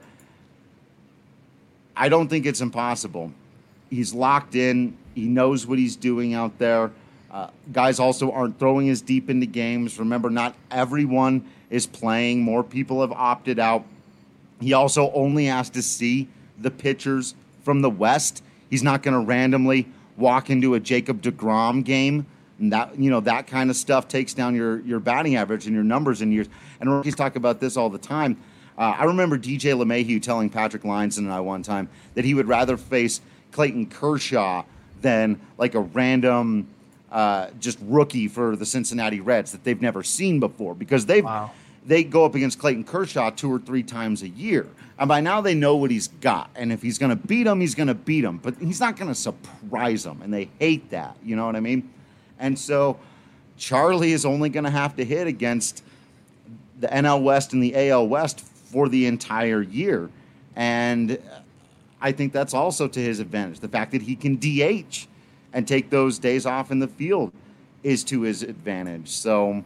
[SPEAKER 8] I don't think it's impossible. He's locked in. He knows what he's doing out there. Guys also aren't throwing as deep into games. Remember, not everyone is playing. More people have opted out. He also only has to see the pitchers from the West. He's not going to randomly walk into a Jacob deGrom game. And that kind of stuff takes down your batting average and your numbers in years. And rookies talk about this all the time. I remember DJ LeMahieu telling Patrick Lyons and I one time that he would rather face Clayton Kershaw than a random just rookie for the Cincinnati Reds that they've never seen before, because they go up against Clayton Kershaw 2 or 3 times a year. And by now they know what he's got. And if he's going to beat him, he's going to beat him. But he's not going to surprise them. And they hate that. You know what I mean? And so Charlie is only going to have to hit against the NL West and the AL West for the entire year. And I think that's also to his advantage. The fact that he can DH and take those days off in the field is to his advantage. So,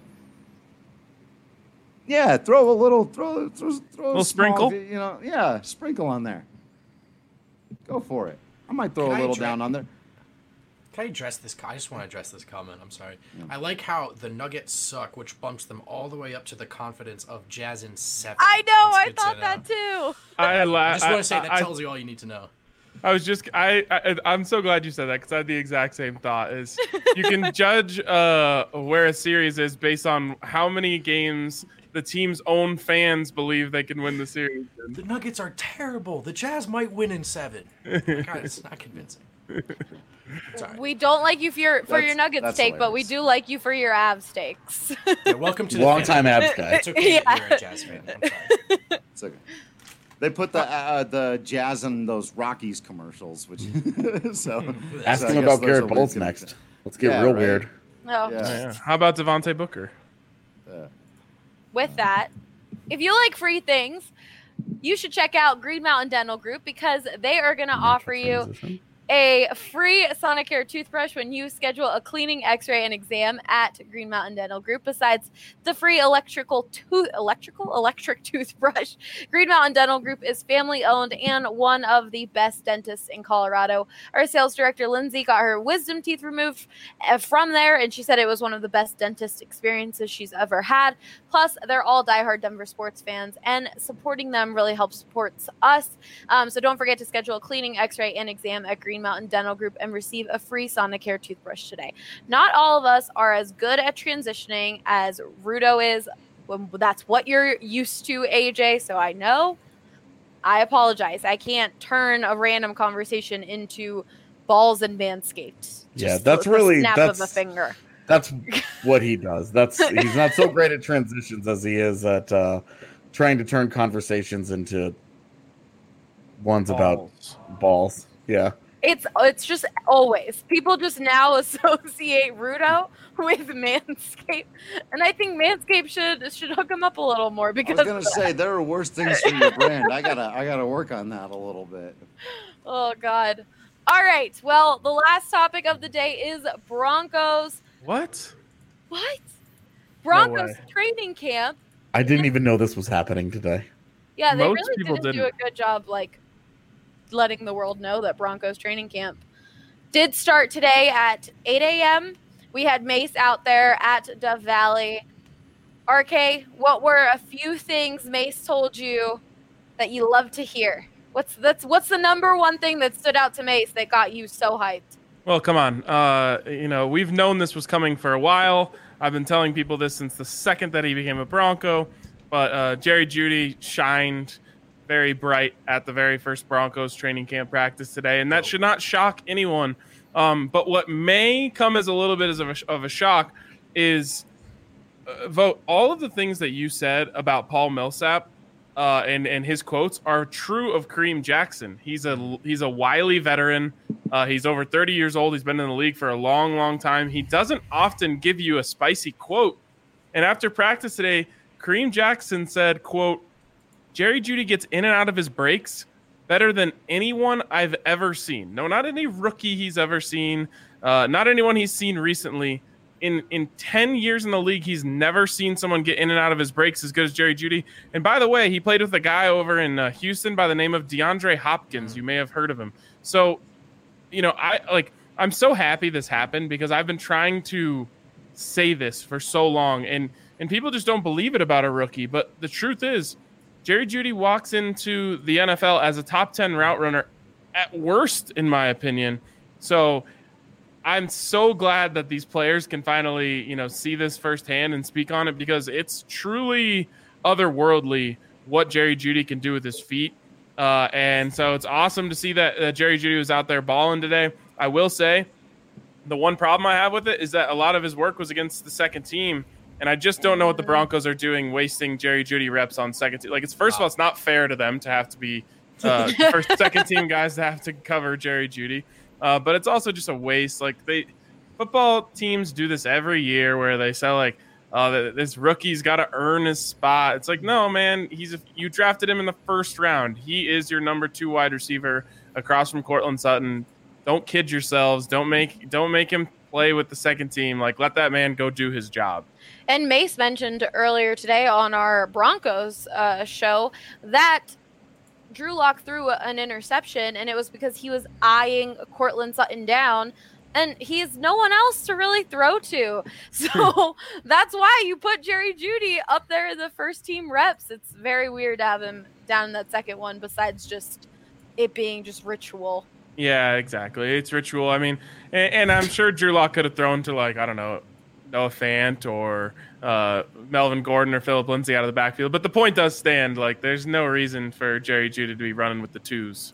[SPEAKER 8] yeah, throw a little
[SPEAKER 5] sprinkle.
[SPEAKER 8] Sprinkle on there. Go for it. I might throw a little down on there.
[SPEAKER 7] Can I address this? I just want to address this comment. I'm sorry. Yeah. I like how the Nuggets suck, which bumps them all the way up to the confidence of Jazz in 7.
[SPEAKER 1] I know. I thought that too.
[SPEAKER 7] I just want to say that tells you all you need to know.
[SPEAKER 5] I'm so glad you said that, because I had the exact same thought. Is you can judge where a series is based on how many games the team's own fans believe they can win the series.
[SPEAKER 7] The Nuggets are terrible. The Jazz might win in 7. God, it's not convincing. Sorry.
[SPEAKER 1] We don't like you for your Nuggets take, but we do like you for your Avs takes.
[SPEAKER 7] Yeah, welcome to the
[SPEAKER 6] long-time Avs guy.
[SPEAKER 7] It's okay that you're a Jazz fan. I'm sorry.
[SPEAKER 8] It's okay. They put the Jazz in those Rockies commercials, which so
[SPEAKER 6] ask him about Garrett Bowles next. Let's get real weird.
[SPEAKER 1] Oh.
[SPEAKER 5] Yeah. How about Devontae Booker?
[SPEAKER 1] With that, if you like free things, you should check out Green Mountain Dental Group, because they are going to offer you a free Sonicare toothbrush when you schedule a cleaning, x-ray, and exam at Green Mountain Dental Group. Besides the free electric toothbrush, Green Mountain Dental Group is family-owned and one of the best dentists in Colorado. Our sales director, Lindsay, got her wisdom teeth removed from there, and she said it was one of the best dentist experiences she's ever had. Plus, they're all diehard Denver sports fans, and supporting them really helps support us. So don't forget to schedule a cleaning, x-ray, and exam at Green Mountain Dental Group and receive a free Sonicare toothbrush today. Not all of us are as good at transitioning as Rudo is. Well, that's what you're used to, AJ, so I know. I apologize. I can't turn a random conversation into balls and Manscaped.
[SPEAKER 6] Yeah,
[SPEAKER 1] Just
[SPEAKER 6] that's
[SPEAKER 1] the
[SPEAKER 6] really
[SPEAKER 1] snap of a finger.
[SPEAKER 6] That's what he does. He's not so great at transitions as he is at trying to turn conversations into ones about balls. Yeah.
[SPEAKER 1] It's just always people just now associate Rudo with Manscaped, and I think Manscaped should hook him up a little more because
[SPEAKER 8] I was gonna say there are worse things for your brand. I gotta work on that a little bit.
[SPEAKER 1] Oh God. All right. Well, the last topic of the day is Broncos.
[SPEAKER 5] What?
[SPEAKER 1] Broncos training camp.
[SPEAKER 6] I didn't even know this was happening today.
[SPEAKER 1] Yeah, they
[SPEAKER 5] Most
[SPEAKER 1] really
[SPEAKER 5] people
[SPEAKER 1] didn't do a good job, letting the world know that Broncos training camp did start today at 8 a.m. We had Mace out there at Dove Valley. RK, what were a few things Mace told you that you love to hear? What's the number one thing that stood out to Mace that got you so hyped?
[SPEAKER 5] Well, come on. We've known this was coming for a while. I've been telling people this since the second that he became a Bronco. But Jerry Jeudy shined very bright at the very first Broncos training camp practice today, and that should not shock anyone. But what may come as a little bit of a shock is, Vote, all of the things that you said about Paul Millsap and his quotes are true of Kareem Jackson. He's a wily veteran. He's over 30 years old. He's been in the league for a long, long time. He doesn't often give you a spicy quote. And after practice today, Kareem Jackson said, quote, Jerry Jeudy gets in and out of his breaks better than anyone I've ever seen. No, not any rookie he's ever seen. Not anyone he's seen recently. In 10 years in the league, he's never seen someone get in and out of his breaks as good as Jerry Jeudy. And by the way, he played with a guy over in Houston by the name of DeAndre Hopkins. You may have heard of him. So, I'm so happy this happened because I've been trying to say this for so long, and people just don't believe it about a rookie. But the truth is, Jerry Jeudy walks into the NFL as a top 10 route runner at worst, in my opinion. So I'm so glad that these players can finally, see this firsthand and speak on it, because it's truly otherworldly what Jerry Jeudy can do with his feet. And so it's awesome to see that Jerry Jeudy was out there balling today. I will say the one problem I have with it is that a lot of his work was against the second team. And I just don't know what the Broncos are doing, wasting Jerry Jeudy reps on second team. First of all, it's not fair to them to have to be first, second team guys to have to cover Jerry Jeudy. But it's also just a waste. Football teams do this every year where they say this rookie's got to earn his spot. It's like, no, man, you drafted him in the first round. He is your number 2 wide receiver across from Courtland Sutton. Don't kid yourselves. Don't make him play with the second team. Let that man go do his job.
[SPEAKER 1] And Mace mentioned earlier today on our Broncos show that Drew Lock threw an interception, and it was because he was eyeing Courtland Sutton down, and he's no one else to really throw to. So that's why you put Jerry Jeudy up there in the first team reps. It's very weird to have him down in that second one, besides just it being just ritual.
[SPEAKER 5] Yeah, exactly. It's ritual. I mean, and I'm sure Drew Lock could have thrown to Noah Fant or Melvin Gordon or Phillip Lindsay out of the backfield. But the point does stand. There's no reason for Jerry Jeudy to be running with the twos.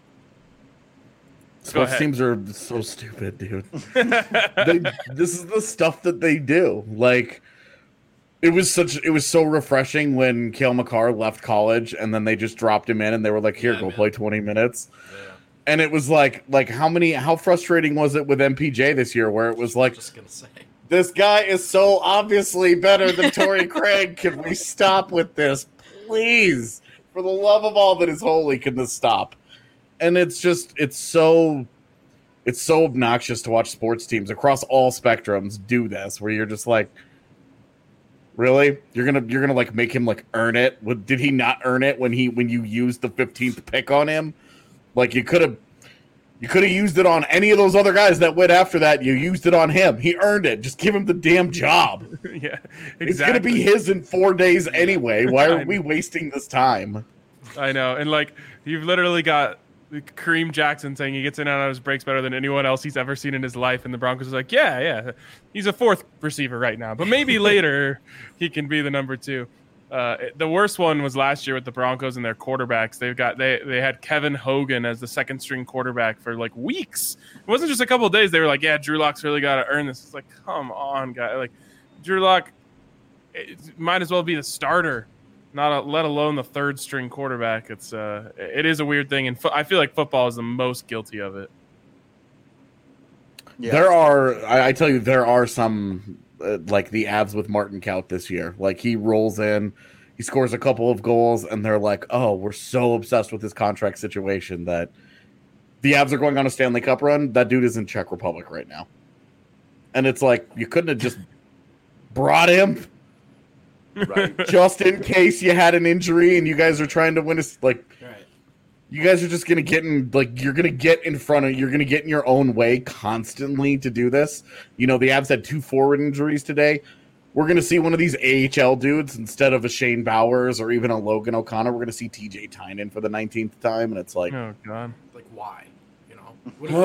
[SPEAKER 6] Sports teams are so stupid, dude. This is the stuff that they do. It was so refreshing when Cale Makar left college, and then they just dropped him in, and they were like, "Here, go play 20 minutes." Yeah. And it was how frustrating was it with MPJ this year, where it was
[SPEAKER 7] just gonna say,
[SPEAKER 6] this guy is so obviously better than Torrey Craig. Can we stop with this, please? For the love of all that is holy, can this stop? And it's so obnoxious to watch sports teams across all spectrums do this, where you're just like, really? You're gonna make him earn it? Did he not earn it when you used the 15th pick on him? You could have used it on any of those other guys that went after that. You used it on him. He earned it. Just give him the damn job.
[SPEAKER 5] Yeah, exactly.
[SPEAKER 6] It's going to be his in 4 days anyway. Why are we wasting this time?
[SPEAKER 5] I know. And you've literally got Kareem Jackson saying he gets in and out of his breaks better than anyone else he's ever seen in his life. And the Broncos are like, yeah. He's a 4th receiver right now. But maybe later he can be the number 2. The worst one was last year with the Broncos and their quarterbacks. They had Kevin Hogan as the second string quarterback for like weeks. It wasn't just a couple of days. They were like, "Yeah, Drew Lock's really got to earn this." It's like, come on, guy. Like, Drew Lock might as well be the starter, let alone the third string quarterback. It is a weird thing, and I feel like football is the most guilty of it.
[SPEAKER 6] Yeah. I tell you, there are some. Like the Avs with Martin Kaut this year. Like he rolls in, he scores a couple of goals, and they're like, oh, we're so obsessed with this contract situation that the Avs are going on a Stanley Cup run. That dude is in Czech Republic right now. And it's like, you couldn't have just brought him just in case you had an injury and you guys are trying to win you guys are just going to get in, you're going to get in your own way constantly to do this. You know, the Avs had 2 forward injuries today. We're going to see one of these AHL dudes instead of a Shane Bowers or even a Logan O'Connor. We're going to see TJ Tynan for the 19th time. And it's like,
[SPEAKER 5] oh, God.
[SPEAKER 7] Like, why? You know?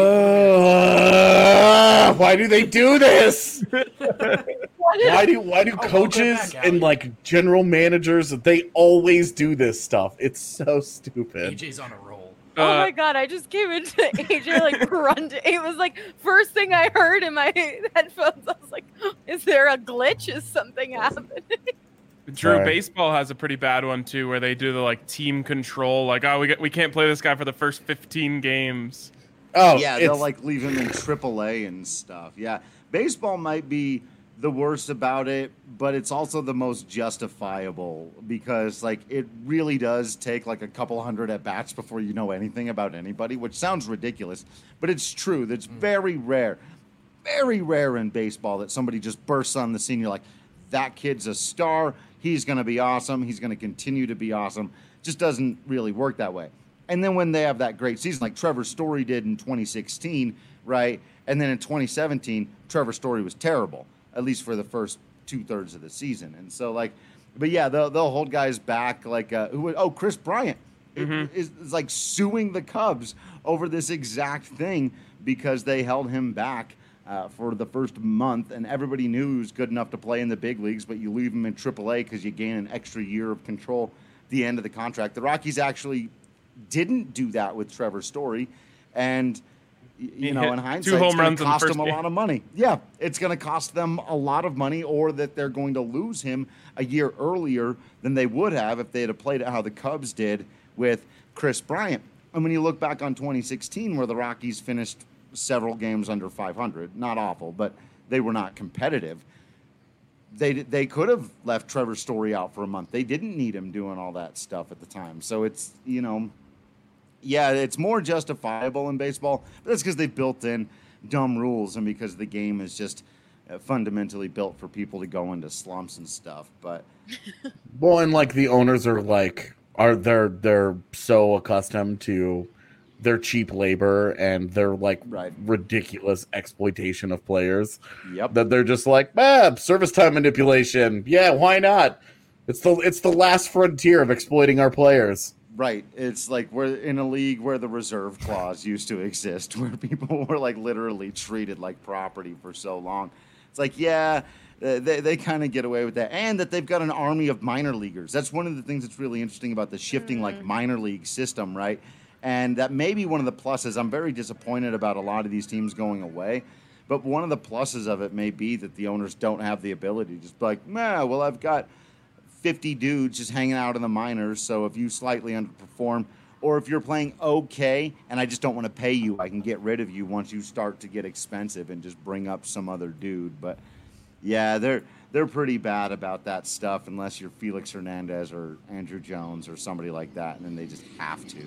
[SPEAKER 6] Why do they do this? Why do coaches and like general managers, they always do this stuff? It's so stupid.
[SPEAKER 7] AJ's on a roll.
[SPEAKER 1] Oh my God, I just came into AJ like grunting. It was like first thing I heard in my headphones. I was like, is there a glitch? Is something happening?
[SPEAKER 5] Drew, baseball has a pretty bad one too, where they do the like team control, like, oh, we can't play this guy for the first 15 games.
[SPEAKER 8] Oh yeah, they'll like leave him in AAA and stuff. Yeah, baseball might be the worst about it, but it's also the most justifiable because like it really does take like a couple hundred at bats before you know anything about anybody, which sounds ridiculous, but it's true. That's very rare in baseball that somebody just bursts on the scene. You're like, that kid's a star. He's going to be awesome. He's going to continue to be awesome. Just doesn't really work that way. And then when they have that great season, like Trevor Story did in 2016, right? And then in 2017, Trevor Story was terrible, at least for the first 2/3 of the season. And so, like, but yeah, they'll hold guys back, like, Chris Bryant is like suing the Cubs over this exact thing because they held him back for the first month, and everybody knew he was good enough to play in the big leagues, but you leave him in AAA because you gain an extra year of control at the end of the contract. The Rockies actually didn't do that with Trevor Story, and you know, in hindsight,
[SPEAKER 5] 2 home
[SPEAKER 8] it's going
[SPEAKER 5] runs
[SPEAKER 8] to
[SPEAKER 5] in the
[SPEAKER 8] cost
[SPEAKER 5] first
[SPEAKER 8] them a
[SPEAKER 5] game.
[SPEAKER 8] lot of money. Yeah, it's going to cost them a lot of money, or that they're going to lose him a year earlier than they would have if they had played it how the Cubs did with Chris Bryant. And when you look back on 2016, where the Rockies finished several games under 500, not awful, but they were not competitive. They could have left Trevor Story out for a month. They didn't need him doing all that stuff at the time. So it's, you know, yeah, it's more justifiable in baseball, but that's because they built in dumb rules and because the game is just fundamentally built for people to go into slumps and stuff. But
[SPEAKER 6] well, and like the owners are like, they're so accustomed to their cheap labor and their like ridiculous exploitation of players.
[SPEAKER 8] Yep.
[SPEAKER 6] That they're just like, service time manipulation. Yeah, why not? It's the last frontier of exploiting our players.
[SPEAKER 8] Right. It's like we're in a league where the reserve clause used to exist, where people were like literally treated like property for so long. It's like, yeah, they kind of get away with that. And that they've got an army of minor leaguers. That's one of the things that's really interesting about the shifting like minor league system, right? And that may be one of the pluses. I'm very disappointed about a lot of these teams going away. But one of the pluses of it may be that the owners don't have the ability to just be like, well, I've got 50 dudes just hanging out in the minors, so if you slightly underperform, or if you're playing okay and I just don't want to pay you, I can get rid of you once you start to get expensive and just bring up some other dude. But yeah, they're pretty bad about that stuff unless you're Felix Hernandez or Andrew Jones or somebody like that, and then they just have to.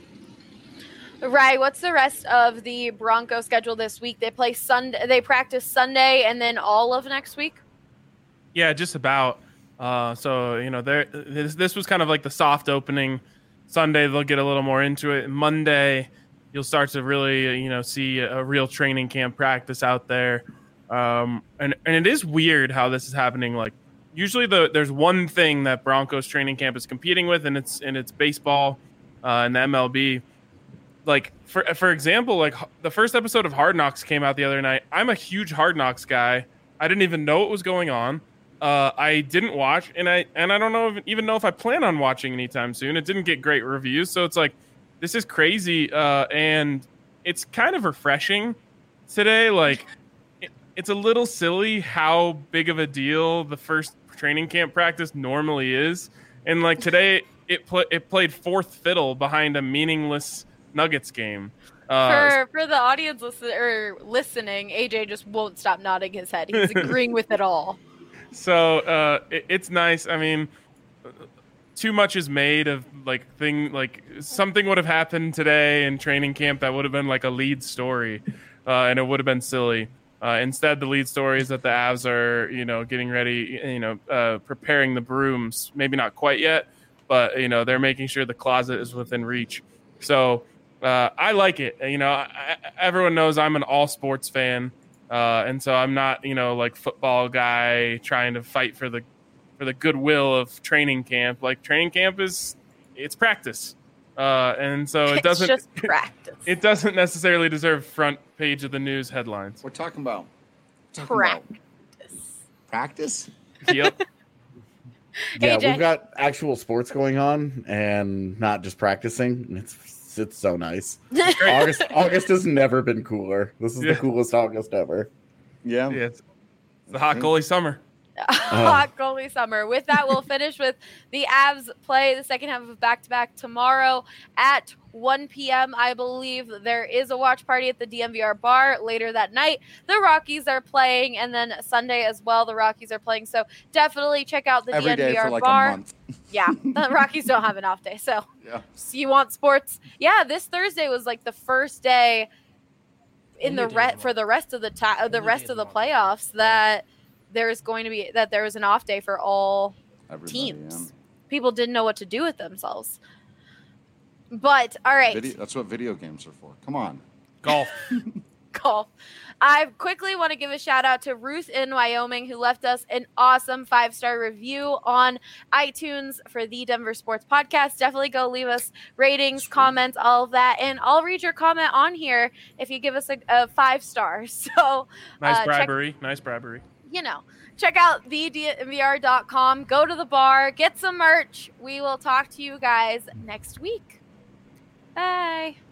[SPEAKER 1] Right. What's the rest of the Bronco schedule this week? They play Sunday. They practice Sunday and then all of next week.
[SPEAKER 5] Yeah, just about. So, you know, this was kind of like the soft opening. Sunday, they'll get a little more into it. Monday, you'll start to really, you know, see a real training camp practice out there. And it is weird how this is happening. Like, usually there's one thing that Broncos training camp is competing with, and it's baseball and the MLB. Like, for example, like the first episode of Hard Knocks came out the other night. I'm a huge Hard Knocks guy. I didn't even know what was going on. I didn't watch, and I don't know even know if I plan on watching anytime soon. It didn't get great reviews, so it's like this is crazy, and it's kind of refreshing today. Like it's a little silly how big of a deal the first training camp practice normally is, and like today it played fourth fiddle behind a meaningless Nuggets game.
[SPEAKER 1] For the audience listening, AJ just won't stop nodding his head. He's agreeing with it all.
[SPEAKER 5] So it's nice. I mean, too much is made of something would have happened today in training camp that would have been like a lead story, and it would have been silly. Instead, the lead story is that the Avs are, getting ready, preparing the brooms. Maybe not quite yet, but they're making sure the closet is within reach. So I like it. Everyone knows I'm an all sports fan. And so I'm not, like football guy trying to fight for the goodwill of training camp. Like training camp it's practice. And so it doesn't
[SPEAKER 1] just practice.
[SPEAKER 5] It doesn't necessarily deserve front page of the news headlines.
[SPEAKER 8] We're talking about
[SPEAKER 1] practice.
[SPEAKER 5] Yep.
[SPEAKER 6] Yeah,
[SPEAKER 1] AJ.
[SPEAKER 6] we've got actual sports going on and not just practicing. It's so nice. August has never been cooler. This is the coolest August ever.
[SPEAKER 8] Yeah.
[SPEAKER 5] It's the hot goalie summer.
[SPEAKER 1] Hot goalie summer. With that, we'll finish with the Avs play the second half of back-to-back tomorrow at 1 p.m. I believe there is a watch party at the DNVR bar later that night. The Rockies are playing, and then Sunday as well, the Rockies are playing. So definitely check out the
[SPEAKER 8] Every
[SPEAKER 1] DNVR
[SPEAKER 8] day for like
[SPEAKER 1] bar.
[SPEAKER 8] a month.
[SPEAKER 1] Yeah, the Rockies don't have an off day. So
[SPEAKER 8] Yeah.
[SPEAKER 1] you want sports? Yeah, this Thursday was like the first day in
[SPEAKER 7] Only
[SPEAKER 1] the
[SPEAKER 7] day of the
[SPEAKER 1] for the rest of the
[SPEAKER 7] Only
[SPEAKER 1] rest
[SPEAKER 7] day
[SPEAKER 1] of the
[SPEAKER 7] month.
[SPEAKER 1] playoffs that there was an off day for all
[SPEAKER 8] Everybody,
[SPEAKER 1] teams. People didn't know what to do with themselves. But all right,
[SPEAKER 8] That's what video games are for. Come on.
[SPEAKER 5] Golf.
[SPEAKER 1] golf. I quickly want to give a shout out to Ruth in Wyoming, who left us an awesome 5-star review on iTunes for the Denver Sports Podcast. Definitely go leave us ratings, comments, all of that, and I'll read your comment on here if you give us a 5-star. So
[SPEAKER 5] Nice bribery.
[SPEAKER 1] check out thednvr.com. Go to the bar, get some merch. We will talk to you guys next week. Bye.